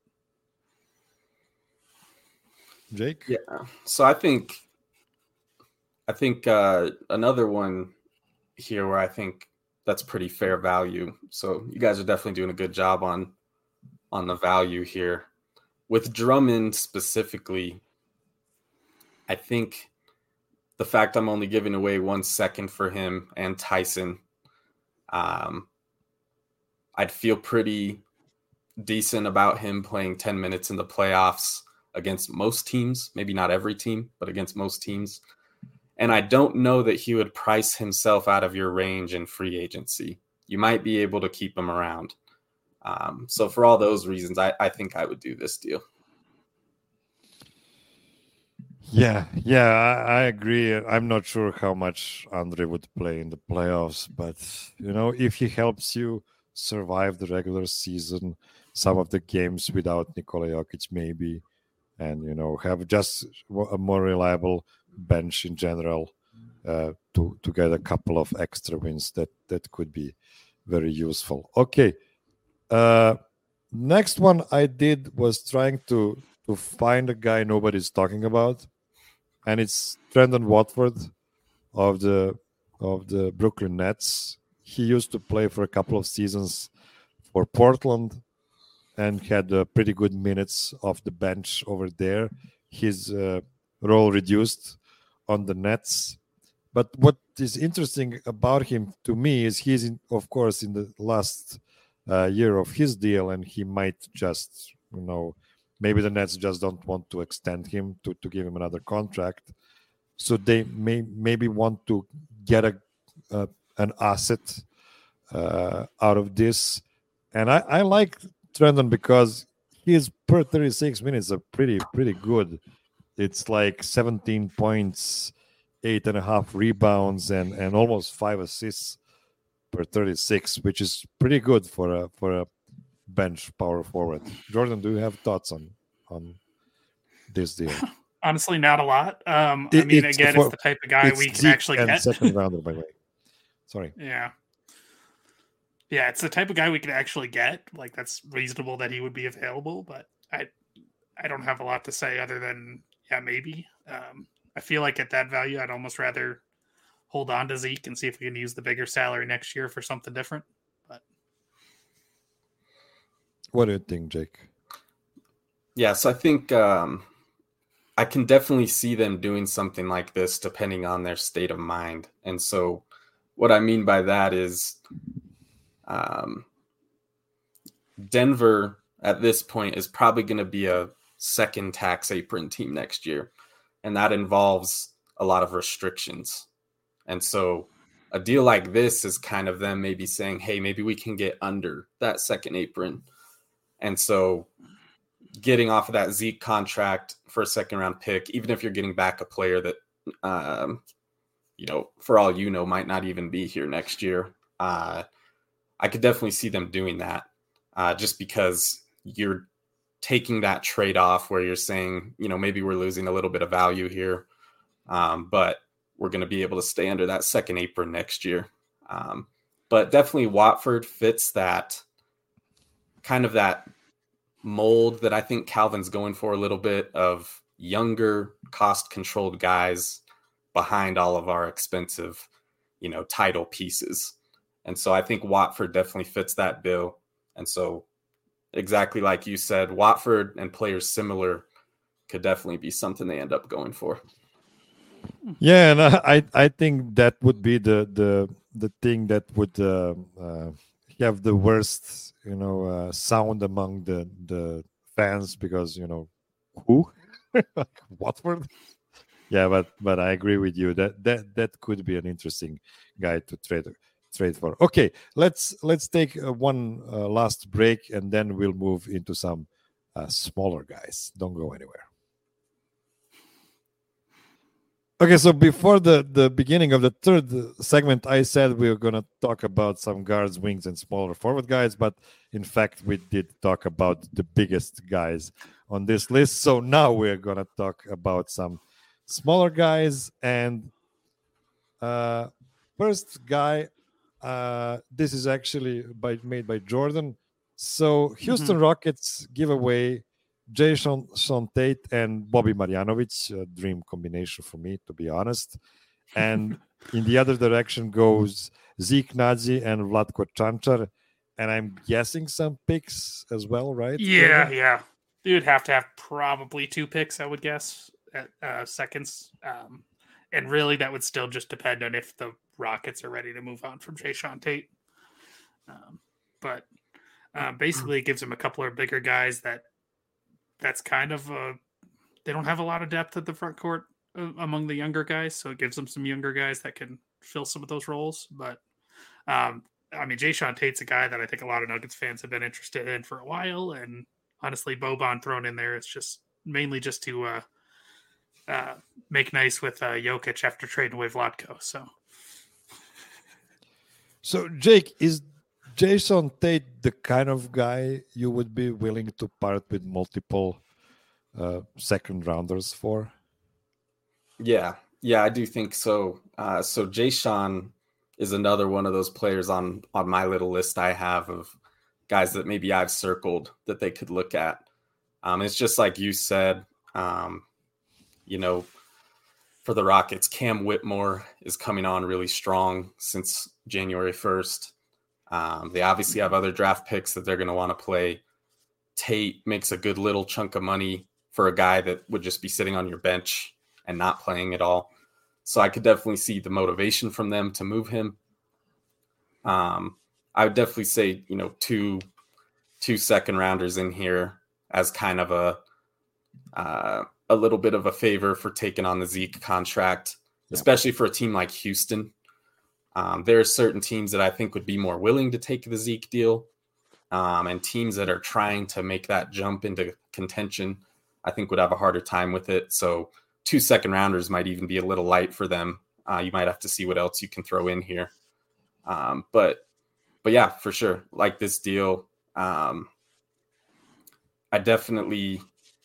Jake? Yeah. So I think I think uh, another one here where I think that's pretty fair value. So you guys are definitely doing a good job on on the value here. With Drummond specifically, I think the fact I'm only giving away one second for him and Tyson, um, I'd feel pretty decent about him playing ten minutes in the playoffs against most teams, maybe not every team, but against most teams. And I don't know that he would price himself out of your range in free agency. You might be able to keep him around. Um, so for all those reasons, I, I think I would do this deal. Yeah, yeah, I, I agree. I'm not sure how much Andre would play in the playoffs, but you know, if he helps you survive the regular season, some of the games without Nikola Jokic, maybe, and you know, have just a more reliable bench in general, uh, to to get a couple of extra wins, that that could be very useful. Okay, uh, next one I did was trying to to find a guy nobody's talking about, and it's Trendon Watford of the of the Brooklyn Nets. He used to play for a couple of seasons for Portland and had uh, pretty good minutes off the bench over there. His uh, role reduced on the Nets. But what is interesting about him to me is he's, in, of course, in the last uh, year of his deal, and he might just, you know, maybe the Nets just don't want to extend him to, to give him another contract. So they may maybe want to get a, a an asset uh, out of this. And I, I like Trendon because his per thirty-six minutes are pretty, pretty good. It's like seventeen points, eight and a half rebounds, and, and almost five assists per thirty-six, which is pretty good for a for a bench power forward. Jordan, do you have thoughts on on this deal? honestly, not a lot. Um, It- I mean, it's again, for- it's the type of guy It's we can Zeke actually and get. second rounder, by the way. Sorry. Yeah. Yeah, it's the type of guy we can actually get. Like, that's reasonable that he would be available, but I I don't have a lot to say other than, yeah, maybe. Um, I feel like at that value, I'd almost rather hold on to Zeke and see if we can use the bigger salary next year for something different. But What do you think, Jake? Yeah, so I think um, I can definitely see them doing something like this depending on their state of mind. And so what I mean by that is um, Denver at this point is probably going to be a second tax apron team next year. And that involves a lot of restrictions. And so a deal like this is kind of them maybe saying, hey, maybe we can get under that second apron. And so getting off of that Zeke contract for a second round pick, even if you're getting back a player that, um, you know, for all you know, might not even be here next year. Uh, I could definitely see them doing that uh, just because you're taking that trade off where you're saying, you know, maybe we're losing a little bit of value here, um, but we're going to be able to stay under that second apron next year. Um, but definitely Watford fits that kind of that mold that I think Calvin's going for a little bit of younger, cost-controlled guys behind all of our expensive, you know, title pieces. And so I think Watford definitely fits that bill. And so exactly like you said, Watford and players similar could definitely be something they end up going for. Yeah, and I I think that would be the the the thing that would uh, uh, have the worst, you know, uh, sound among the the fans, because, you know, who Watford. Yeah, but but I agree with you that that that could be an interesting guy to trade trade for. Okay, let's let's take uh, one uh, last break, and then we'll move into some uh, smaller guys. Don't go anywhere. Okay, so before the, the beginning of the third segment, I said we were going to talk about some guards, wings, and smaller forward guys, but in fact, we did talk about the biggest guys on this list. So now we're going to talk about some smaller guys. And uh, first guy, uh, this is actually by, made by Jordan. So Houston mm-hmm. Rockets give away Jason Sean Tate and Bobby Marjanovic, a dream combination for me, to be honest. And in the other direction goes Zeke Naji and Vlatko Čančar. And I'm guessing some picks as well, right? Yeah, yeah. You'd have to have probably two picks, I would guess, at uh, seconds. Um, and really, that would still just depend on if the Rockets are ready to move on from Jason Tate. Um, but uh, basically, it gives them a couple of bigger guys that that's kind of uh they don't have a lot of depth at the front court uh, among the younger guys, so it gives them some younger guys that can fill some of those roles. But um I mean, Jason Tate's a guy that I think a lot of Nuggets fans have been interested in for a while, and honestly, Boban thrown in there, it's just mainly just to uh uh make nice with uh Jokic after trading away Vlatko. So so Jake, is Jason Tate the kind of guy you would be willing to part with multiple uh, second rounders for? Yeah, yeah, I do think so. Uh, so Jason is another one of those players on on my little list I have of guys that maybe I've circled that they could look at. Um, it's just like you said, um, you know, for the Rockets, Cam Whitmore is coming on really strong since January first. Um, they obviously have other draft picks that they're going to want to play. Tate makes a good little chunk of money for a guy that would just be sitting on your bench and not playing at all. So I could definitely see the motivation from them to move him. Um, I would definitely say, you know, two, two second rounders in here as kind of a, uh, a little bit of a favor for taking on the Zeke contract, yeah. especially for a team like Houston. Um, there are certain teams that I think would be more willing to take the Zeke deal, um, and teams that are trying to make that jump into contention, I think would have a harder time with it. So two second rounders might even be a little light for them. Uh, you might have to see what else you can throw in here. Um, but, but yeah, for sure. Like this deal, um, I definitely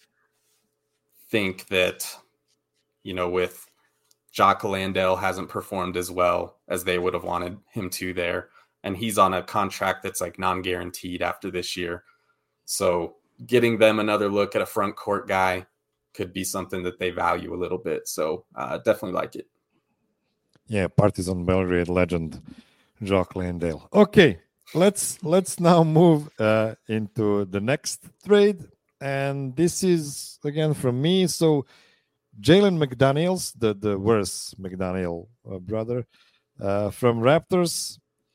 think that, you know, with Jock Landale hasn't performed as well as they would have wanted him to there. And he's on a contract that's like non-guaranteed after this year. So getting them another look at a front court guy could be something that they value a little bit. So uh, definitely like it. Yeah, Partizan Belgrade legend Jock Landale. Okay, let's let's now move uh, into the next trade. And this is, again, from me. So Jalen McDaniels, the, the worst McDaniel uh, brother, uh, from Raptors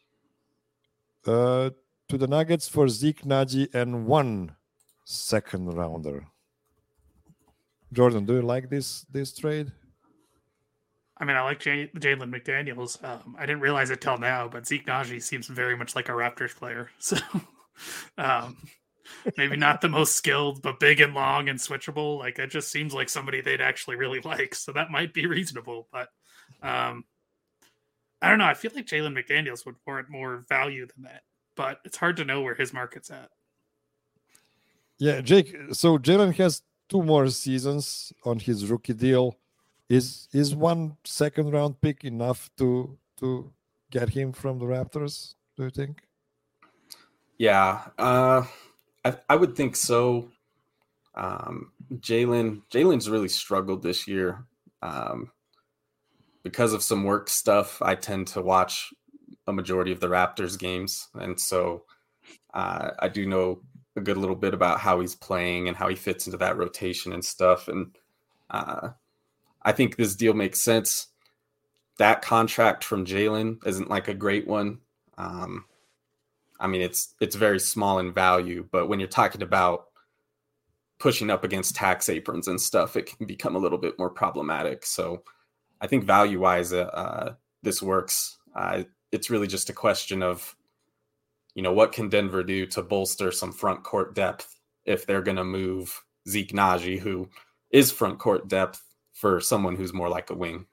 uh, to the Nuggets for Zeke Naji and one second rounder. Jordan, do you like this this trade? I mean, I like J- Jalen McDaniels. Um, I didn't realize it till now, but Zeke Naji seems very much like a Raptors player. So um, maybe not the most skilled, but big and long and switchable. Like, it just seems like somebody they'd actually really like. So that might be reasonable. But um, I don't know. I feel like Jalen McDaniels would warrant more value than that. But it's hard to know where his market's at. Yeah, Jake. So Jalen has two more seasons on his rookie deal. Is is one second round pick enough to to get him from the Raptors, do you think? Yeah. Uh, I, I would think so. Um, Jalen Jalen's really struggled this year. Um, because of some work stuff, I tend to watch a majority of the Raptors games. And so uh, I do know a good little bit about how he's playing and how he fits into that rotation and stuff. And uh, I think this deal makes sense. That contract from Jalen isn't like a great one. Um, I mean, it's it's very small in value, but when you're talking about pushing up against tax aprons and stuff, it can become a little bit more problematic. So I think value-wise, uh, this works. Uh, it's really just a question of, you know, what can Denver do to bolster some front court depth if they're going to move Zeke Naji, who is front court depth, for someone who's more like a wing.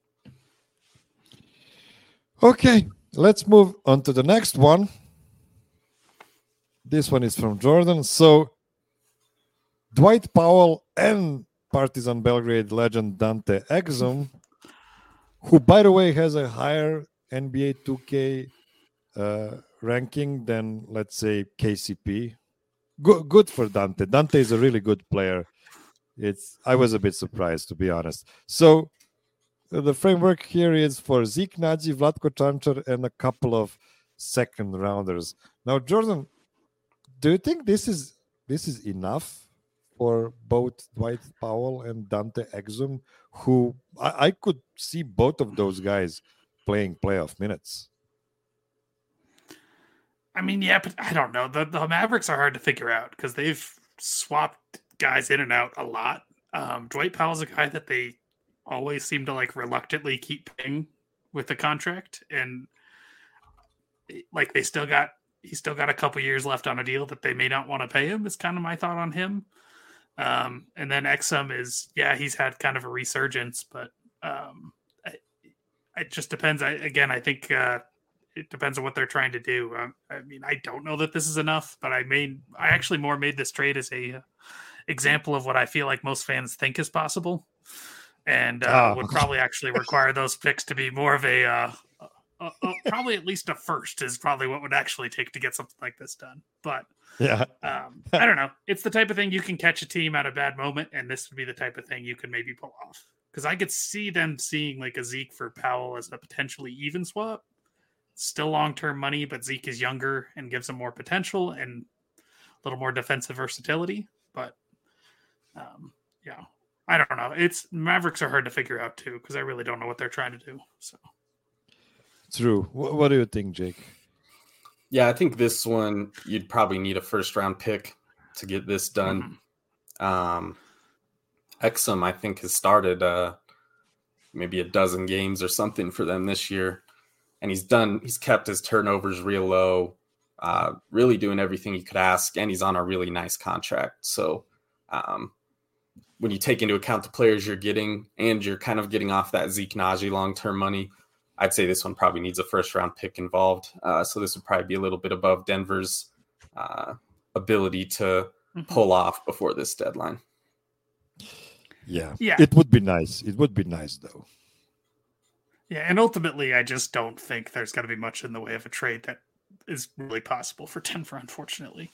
Okay, let's move on to the next one. This one is from Jordan. So Dwight Powell and Partizan Belgrade legend Dante Exum, who, by the way, has a higher N B A two K uh, ranking than, let's say, K C P. Good, good for Dante. Dante is a really good player. It's I was a bit surprised, to be honest. So uh, the framework here is for Zeke Naji, Vlatko Čančar, and a couple of second rounders. Now, Jordan, do you think this is this is enough for both Dwight Powell and Dante Exum, who I, I could see both of those guys playing playoff minutes? I mean, yeah, but I don't know. The, the Mavericks are hard to figure out because they've swapped guys in and out a lot. Um, Dwight Powell's a guy that they always seem to like reluctantly keep paying with the contract, and like they still got he's still got a couple years left on a deal that they may not want to pay him. Is kind of my thought on him. Um, and then Exum is yeah, he's had kind of a resurgence, but um, I, it just depends. I, again, I think. Uh, It depends on what they're trying to do. Um, I mean, I don't know that this is enough, but I made I actually more made this trade as a uh, example of what I feel like most fans think is possible, and uh, oh. would probably actually require those picks to be more of a, uh, a, a probably at least a first is probably what would actually take to get something like this done. But yeah, um, I don't know. It's the type of thing you can catch a team at a bad moment, and this would be the type of thing you could maybe pull off. Because I could see them seeing like a Zeke for Powell as a potentially even swap. Still long-term money, but Zeke is younger and gives him more potential and a little more defensive versatility. But um, yeah, I don't know. It's Mavericks are hard to figure out too because I really don't know what they're trying to do. So true. What, what do you think, Jake? Yeah, I think this one you'd probably need a first-round pick to get this done. Mm-hmm. Um, Exum, I think, has started uh, maybe a dozen games or something for them this year. And he's done, he's kept his turnovers real low, uh, really doing everything you could ask. And he's on a really nice contract. So um, when you take into account the players you're getting and you're kind of getting off that Zeke Naji long-term money, I'd say this one probably needs a first round pick involved. Uh, so this would probably be a little bit above Denver's uh, ability to mm-hmm. pull off before this deadline. Yeah. yeah, it would be nice. It would be nice though. Yeah, and ultimately, I just don't think there's going to be much in the way of a trade that is really possible for Denver, unfortunately.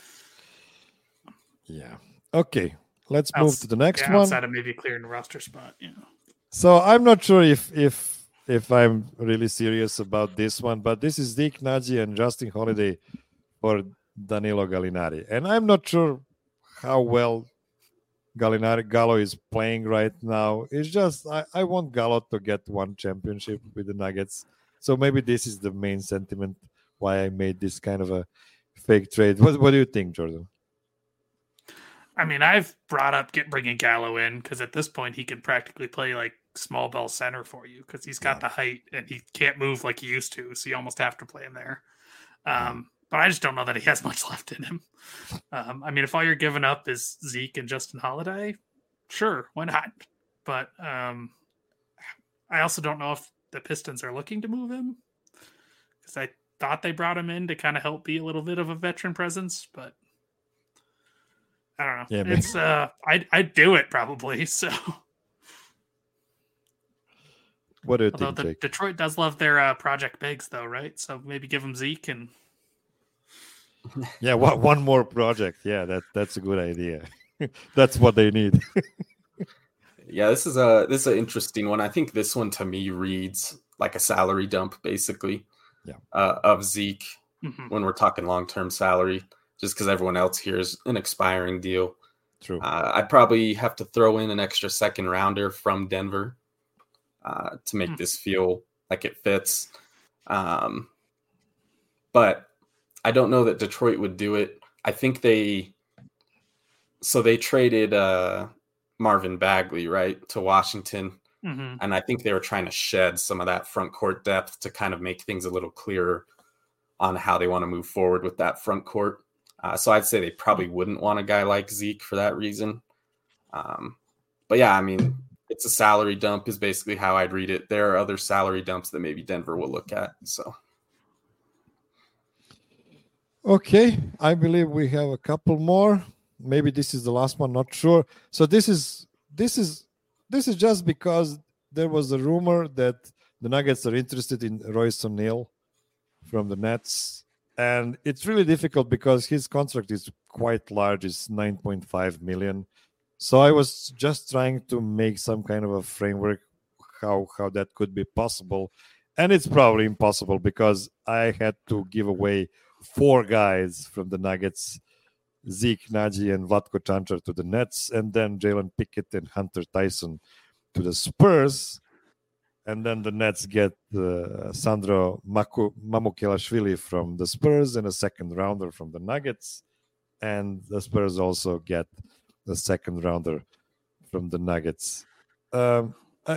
Yeah. Okay, let's move Outs- to the next yeah, one. Outside of maybe clearing the roster spot, you know. So I'm not sure if if if I'm really serious about this one, but this is Zeke Naji and Justin Holiday for Danilo Gallinari, and I'm not sure how well Gallinari Gallo is playing right now. It's just I, I want Gallo to get one championship with the Nuggets. So maybe this is the main sentiment why I made this kind of a fake trade. What what do you think, Jordan? I mean, I've brought up get bringing Gallo in because at this point he can practically play like small ball center for you because he's got yeah. the height and he can't move like he used to. So you almost have to play him there. Um, But I just don't know that he has much left in him. Um, I mean, if all you're giving up is Zeke and Justin Holiday, sure, why not? But um, I also don't know if the Pistons are looking to move him because I thought they brought him in to kind of help be a little bit of a veteran presence, but I don't know. Yeah, it's uh, I'd I'd do it probably. So, what do you Although think, the, Jake? Detroit does love their uh, Project Bigs, though, right? So maybe give them Zeke and. Yeah, one, one more project. Yeah, that that's a good idea. That's what they need. Yeah, this is a this is an interesting one. I think this one to me reads like a salary dump, basically. Yeah. Uh, of Zeke Mhm. when we're talking long term salary, just because everyone else here is an expiring deal. True. Uh, I'd probably have to throw in an extra second rounder from Denver uh, to make Hmm. this feel like it fits. Um, but I don't know that Detroit would do it. I think they so they traded uh, Marvin Bagley, right, to Washington. Mhm. And I think they were trying to shed some of that front court depth to kind of make things a little clearer on how they want to move forward with that front court. Uh, so I'd say they probably wouldn't want a guy like Zeke for that reason. Um, but yeah, I mean, it's a salary dump is basically how I'd read it. There are other salary dumps that maybe Denver will look at. So Okay, I believe we have a couple more. Maybe this is the last one, not sure. So this is this is this is just because there was a rumor that the Nuggets are interested in Royce O'Neal from the Nets, and it's really difficult because his contract is quite large. It's nine point five million. So I was just trying to make some kind of a framework how how that could be possible, and it's probably impossible because I had to give away four guys from the Nuggets, Zeke, Nagy, and Vlatko Čančar to the Nets, and then Jalen Pickett and Hunter Tyson to the Spurs. And then the Nets get uh, Sandro Maku- Mamukelashvili from the Spurs and a second rounder from the Nuggets. And the Spurs also get the second rounder from the Nuggets. Um, I,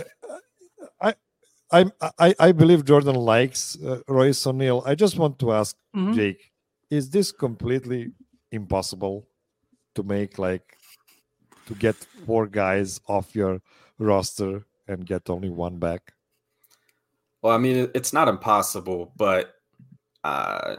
I, I, I, I believe Jordan likes uh, Royce O'Neal. I just want to ask Mhm. Jake, is this completely impossible to make, like, to get four guys off your roster and get only one back? well, I mean, it's not impossible, but uh,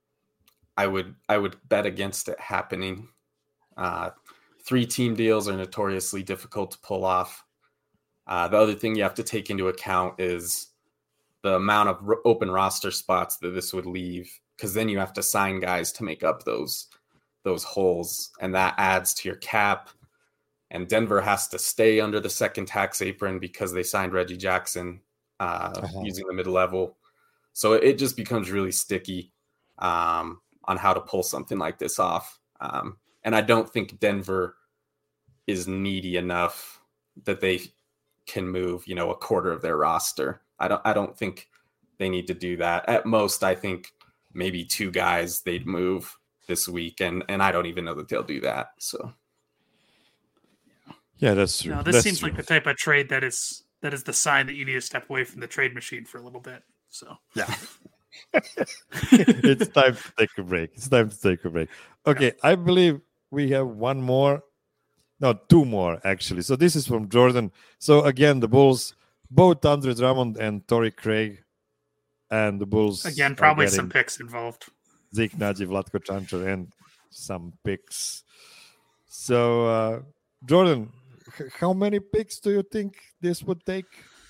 I would I would bet against it happening. Uh, three team deals are notoriously difficult to pull off. Uh, the other thing you have to take into account is the amount of r- open roster spots that this would leave, because then you have to sign guys to make up those those holes, and that adds to your cap. And Denver has to stay under the second tax apron because they signed Reggie Jackson uh, Uh-huh. using the mid level. So it just becomes really sticky um, on how to pull something like this off. Um, and I don't think Denver is needy enough that they can move, you know, a quarter of their roster. I don't I don't think they need to do that. At most, I think maybe two guys they'd move this week, and and I don't even know that they'll do that. So Yeah, that's true. No, this That's seems true. like the type of trade that is that is the sign that you need to step away from the trade machine for a little bit. So Yeah. It's time to take a break. It's time to take a break. Okay, I believe we have one more. No, two more actually. So this is from Jordan. So again, the Bulls, both Andre Drummond and Torrey Craig, and the Bulls again, are probably getting some picks involved. Zeke, Nagy, Vlatko Čančar, and some picks. So uh, Jordan, h- how many picks do you think this would take?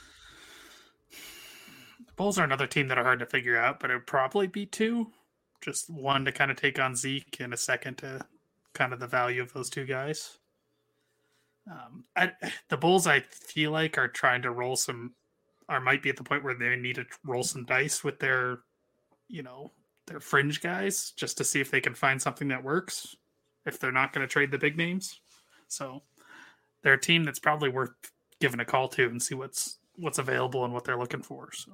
The Bulls are another team that are hard to figure out, but it would probably be two. Just one to kind of take on Zeke, and a second to kind of the value of those two guys. Um, I, the Bulls, I feel like, are trying to roll some, or might be at the point where they need to roll some dice with their, you know, their fringe guys, just to see if they can find something that works. If they're not going to trade the big names, so they're a team that's probably worth giving a call to and see what's what's available and what they're looking for. So.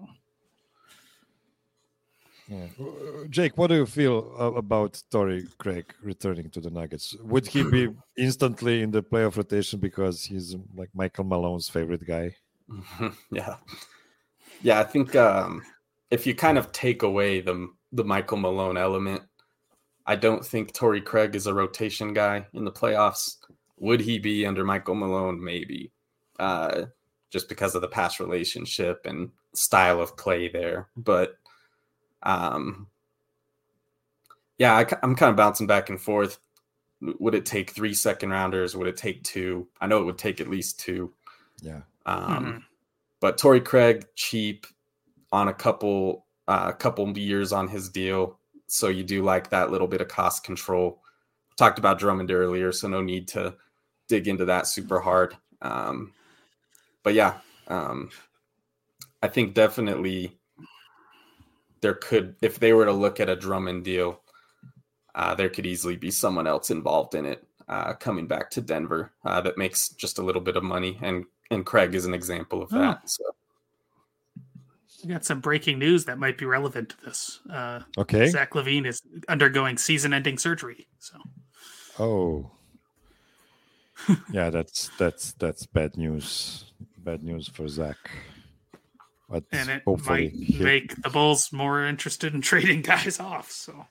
Yeah. Uh, Jake, what do you feel uh, about Torrey Craig returning to the Nuggets? Would he be instantly in the playoff rotation because he's like Michael Malone's favorite guy? yeah, yeah. I think um, if you kind of take away the the Michael Malone element, I don't think Torrey Craig is a rotation guy in the playoffs. Would he be under Michael Malone? Maybe, uh, just because of the past relationship and style of play there. But um, yeah, I, I'm kind of bouncing back and forth. Would it take three second rounders? Would it take two? I know it would take at least two. Yeah. Um, Mm-hmm. But Torrey Craig, cheap on a couple, uh, couple years on his deal. So you do like that little bit of cost control. Talked about Drummond earlier, so no need to dig into that super hard. Um, but yeah, um, I think definitely there could, if they were to look at a Drummond deal, uh, there could easily be someone else involved in it uh, coming back to Denver uh, that makes just a little bit of money. And, and Craig is an example of that. Oh. So. We got some breaking news that might be relevant to this. Uh, okay. Zach LaVine is undergoing season-ending surgery. So. Oh. yeah, that's that's that's bad news. Bad news for Zach. But and it hopefully might he... make the Bulls more interested in trading guys off. So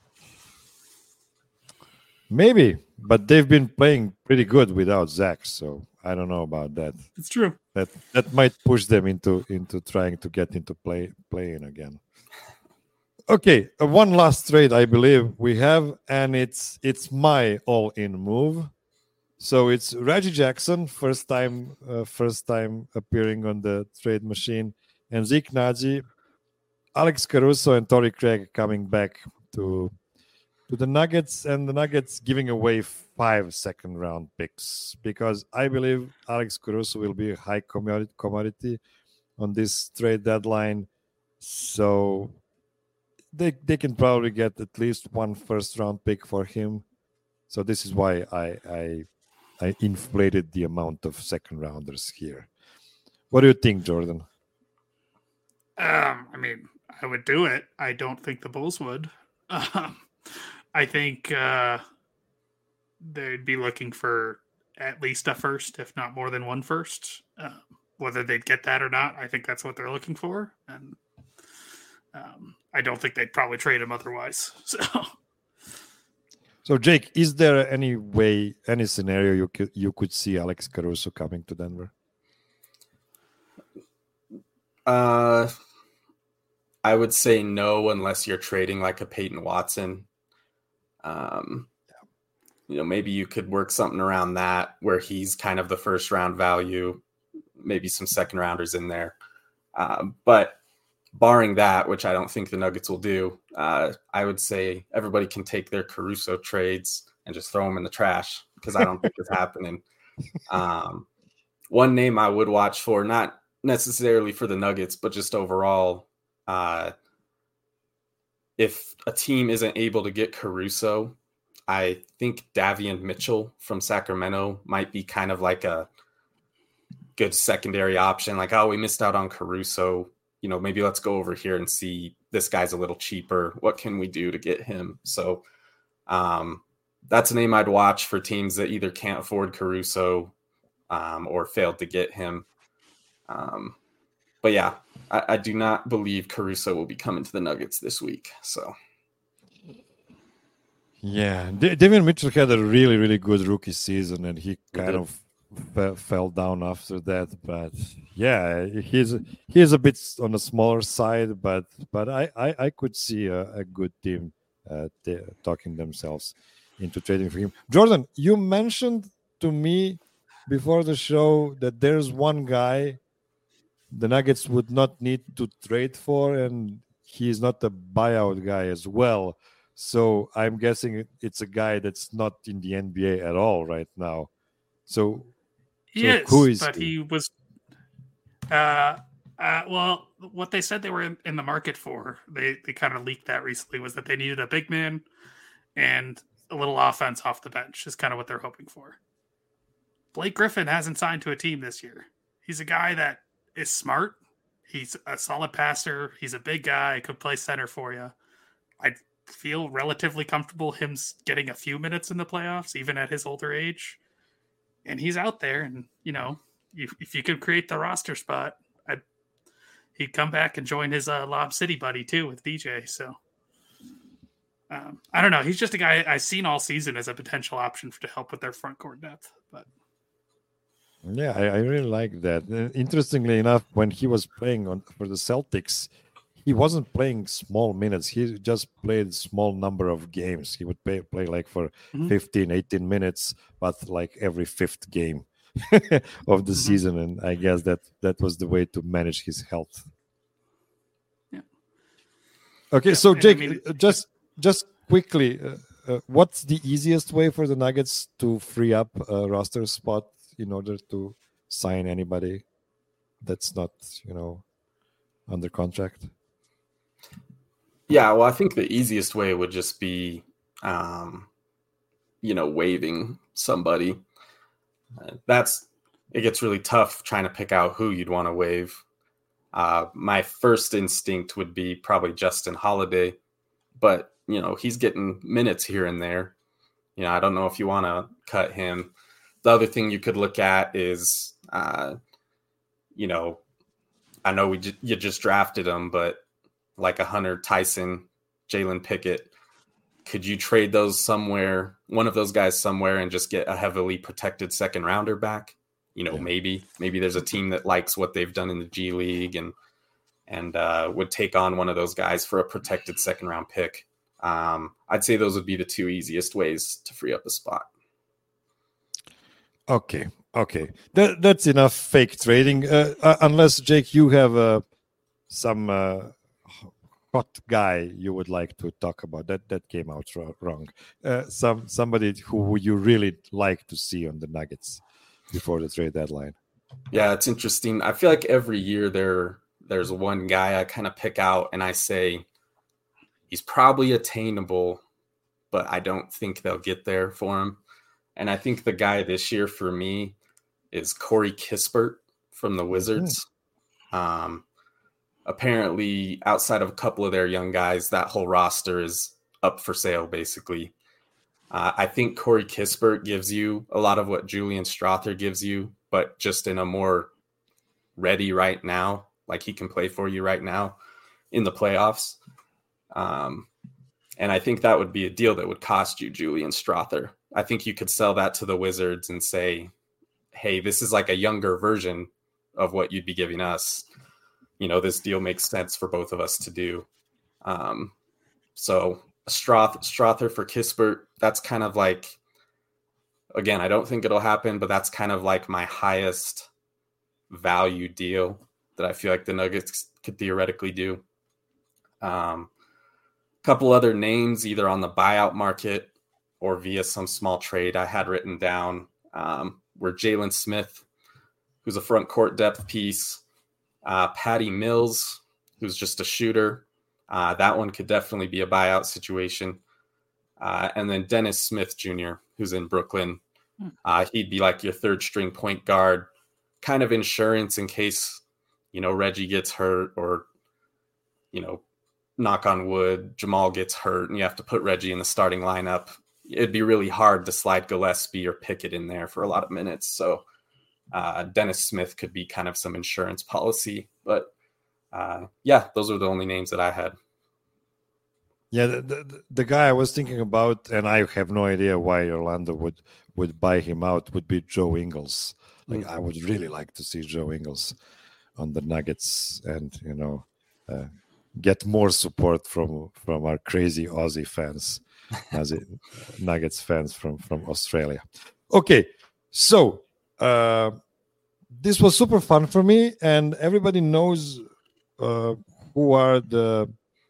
maybe, but they've been playing pretty good without Zach. So I don't know about that. It's true. That that might push them into into trying to get into play playing again. Okay, uh, one last trade I believe we have, and it's it's my all-in move. So it's Reggie Jackson, first time uh, first time appearing on the trade machine, and Zeke Naji, Alex Caruso, and Torrey Craig coming back to to the Nuggets, and the Nuggets giving away five second round picks because I believe Alex Caruso will be a high commodity commodity on this trade deadline. So they they can probably get at least one first round pick for him. So this is why I I I inflated the amount of second rounders here. What do you think, Jordan? Um, I mean, I would do it. I don't think the Bulls would. Um, I think uh, they'd be looking for at least a first, if not more than one first. Um, whether they'd get that or not, I think that's what they're looking for. And um, I don't think they'd probably trade him otherwise. So, so Jake, is there any way, any scenario you could you could see Alex Caruso coming to Denver? Uh, I would say no, unless you're trading like a Peyton Watson. Um, you know, maybe you could work something around that where he's kind of the first round value, maybe some second rounders in there. Um, but barring that, which I don't think the Nuggets will do, uh, I would say everybody can take their Caruso trades and just throw them in the trash because I don't think it's happening. Um, one name I would watch for, not necessarily for the Nuggets, but just overall, uh, if a team isn't able to get Caruso, I think Davion Mitchell from Sacramento might be kind of like a good secondary option. Like, oh, we missed out on Caruso. You know, maybe let's go over here and see this guy's a little cheaper. What can we do to get him? So um, that's a name I'd watch for teams that either can't afford Caruso um, or failed to get him. Um, but yeah, I, I do not believe Caruso will be coming to the Nuggets this week. So. Yeah, D- Davion Mitchell had a really, really good rookie season, and he kind of f- fell down after that. But yeah, he's he's a bit on the smaller side, but but I, I, I could see a, a good team uh, t- talking themselves into trading for him. Jordan, you mentioned to me before the show that there's one guy the Nuggets would not need to trade for, and he's not a buyout guy as well. So I'm guessing it's a guy that's not in the N B A at all right now. So, he so is, who is but he? he was. Uh, uh, well, what they said they were in, in the market for, they they kind of leaked that recently, was that they needed a big man and a little offense off the bench. Is kind of what they're hoping for. Blake Griffin hasn't signed to a team this year. He's a guy that is smart. He's a solid passer. He's a big guy. Could play center for you. I feel relatively comfortable him getting a few minutes in the playoffs, even at his older age. And he's out there, and you know, if, if you could create the roster spot, I'd, he'd come back and join his uh, Lob City buddy too with D J. So um, I don't know. He's just a guy I've seen all season as a potential option for, to help with their front court depth. But yeah, I, I really like that. Uh, interestingly enough, when he was playing on for the Celtics, he wasn't playing small minutes. He just played small number of games. He would play, play like for mm-hmm. fifteen, eighteen minutes, but like every fifth game of the mm-hmm. season. And I guess that that was the way to manage his health. Yeah. Okay, yeah, so Jake, I mean, just just quickly, uh, uh, what's the easiest way for the Nuggets to free up a roster spot in order to sign anybody that's not, you know, under contract? Yeah, well, I think the easiest way would just be, um, you know, waiving somebody. Uh, that's it gets really tough trying to pick out who you'd want to waive. Uh, my first instinct would be probably Justin Holiday, but you know he's getting minutes here and there. You know, I don't know if you want to cut him. The other thing you could look at is, uh, you know, I know we j- you just drafted him, but like a Hunter Tyson, Jalen Pickett, could you trade those somewhere, one of those guys somewhere, and just get a heavily protected second rounder back? You know, yeah. maybe maybe there's a team that likes what they've done in the G League and and uh, would take on one of those guys for a protected second round pick. Um, I'd say those would be the two easiest ways to free up a spot. Okay, okay, that, that's enough fake trading. Uh, uh, unless Jake, you have uh, some uh, hot guy you would like to talk about. That that came out wrong. Uh, some somebody who you really like to see on the Nuggets before the trade deadline. Yeah, it's interesting. I feel like every year there there's one guy I kind of pick out and I say he's probably attainable, but I don't think they'll get there for him. And I think the guy this year for me is Corey Kispert from the Wizards. Mm-hmm. Um, apparently, outside of a couple of their young guys, that whole roster is up for sale, basically. Uh, I think Corey Kispert gives you a lot of what Julian Strawther gives you, but just in a more ready right now, like he can play for you right now in the playoffs. Um, and I think that would be a deal that would cost you Julian Strawther. I think you could sell that to the Wizards and say, hey, this is like a younger version of what you'd be giving us. You know, this deal makes sense for both of us to do. Um, so Stroth, Strawther for Kispert, that's kind of like, again, I don't think it'll happen, but that's kind of like my highest value deal that I feel like the Nuggets could theoretically do. Um, a couple other names, either on the buyout market or via some small trade I had written down, um, were Jalen Smith, who's a front court depth piece, uh, Patty Mills, who's just a shooter. Uh, that one could definitely be a buyout situation. Uh, and then Dennis Smith Junior, who's in Brooklyn. Uh, he'd be like your third string point guard, kind of insurance in case, you know, Reggie gets hurt or, you know, knock on wood, Jamal gets hurt and you have to put Reggie in the starting lineup. It'd be really hard to slide Gillespie or Pickett in there for a lot of minutes. So uh, Dennis Smith could be kind of some insurance policy. But uh, yeah, those are the only names that I had. Yeah, the, the, the guy I was thinking about, and I have no idea why Orlando would, would buy him out, would be Joe Ingles. Like, mm-hmm. I would really like to see Joe Ingles on the Nuggets and, you know, uh, get more support from, from our crazy Aussie fans, Aussie Nuggets fans from, from Australia. Okay, so uh, this was super fun for me, and everybody knows uh, who are the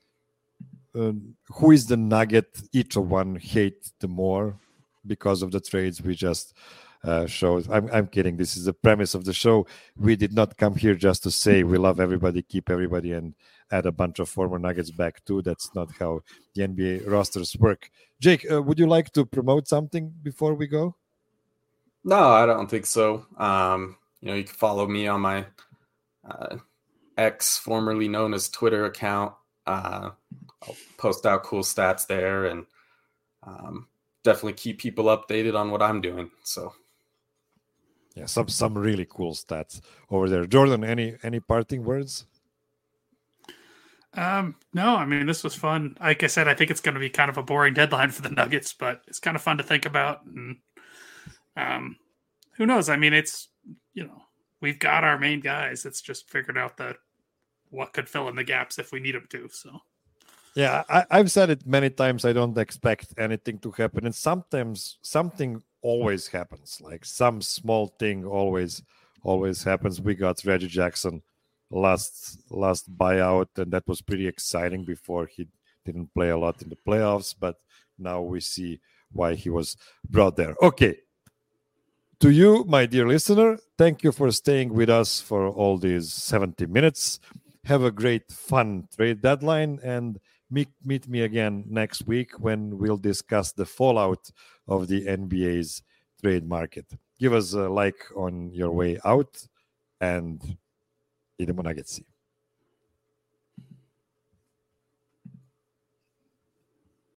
Uh, who is the Nugget each of one hate the more because of the trades we just uh, showed. I'm, I'm kidding. This is the premise of the show. We did not come here just to say we love everybody, keep everybody, and add a bunch of former Nuggets back too. That's not how the N B A rosters work. Jake, uh, would you like to promote something before we go? No, I don't think so. Um, you know, you can follow me on my uh, X, formerly known as Twitter account. Uh, I'll post out cool stats there and um, definitely keep people updated on what I'm doing. So, yeah, some some really cool stats over there. Jordan, any any parting words? Um, no, I mean, this was fun. Like I said, I think it's going to be kind of a boring deadline for the Nuggets, but it's kind of fun to think about. And um, who knows? I mean, it's, you know, we've got our main guys. It's just figured out that what could fill in the gaps if we need them to. So, yeah, I, I've said it many times. I don't expect anything to happen, and sometimes something always happens. Like some small thing always, always happens. We got Reggie Jackson last last buyout, and that was pretty exciting before he didn't play a lot in the playoffs, but now we see why he was brought there. Okay. To you, my dear listener, thank you for staying with us for all these seventy minutes. Have a great, fun trade deadline, and meet, meet me again next week when we'll discuss the fallout of the N B A's trade market. Give us a like on your way out, and idemo na Getsi.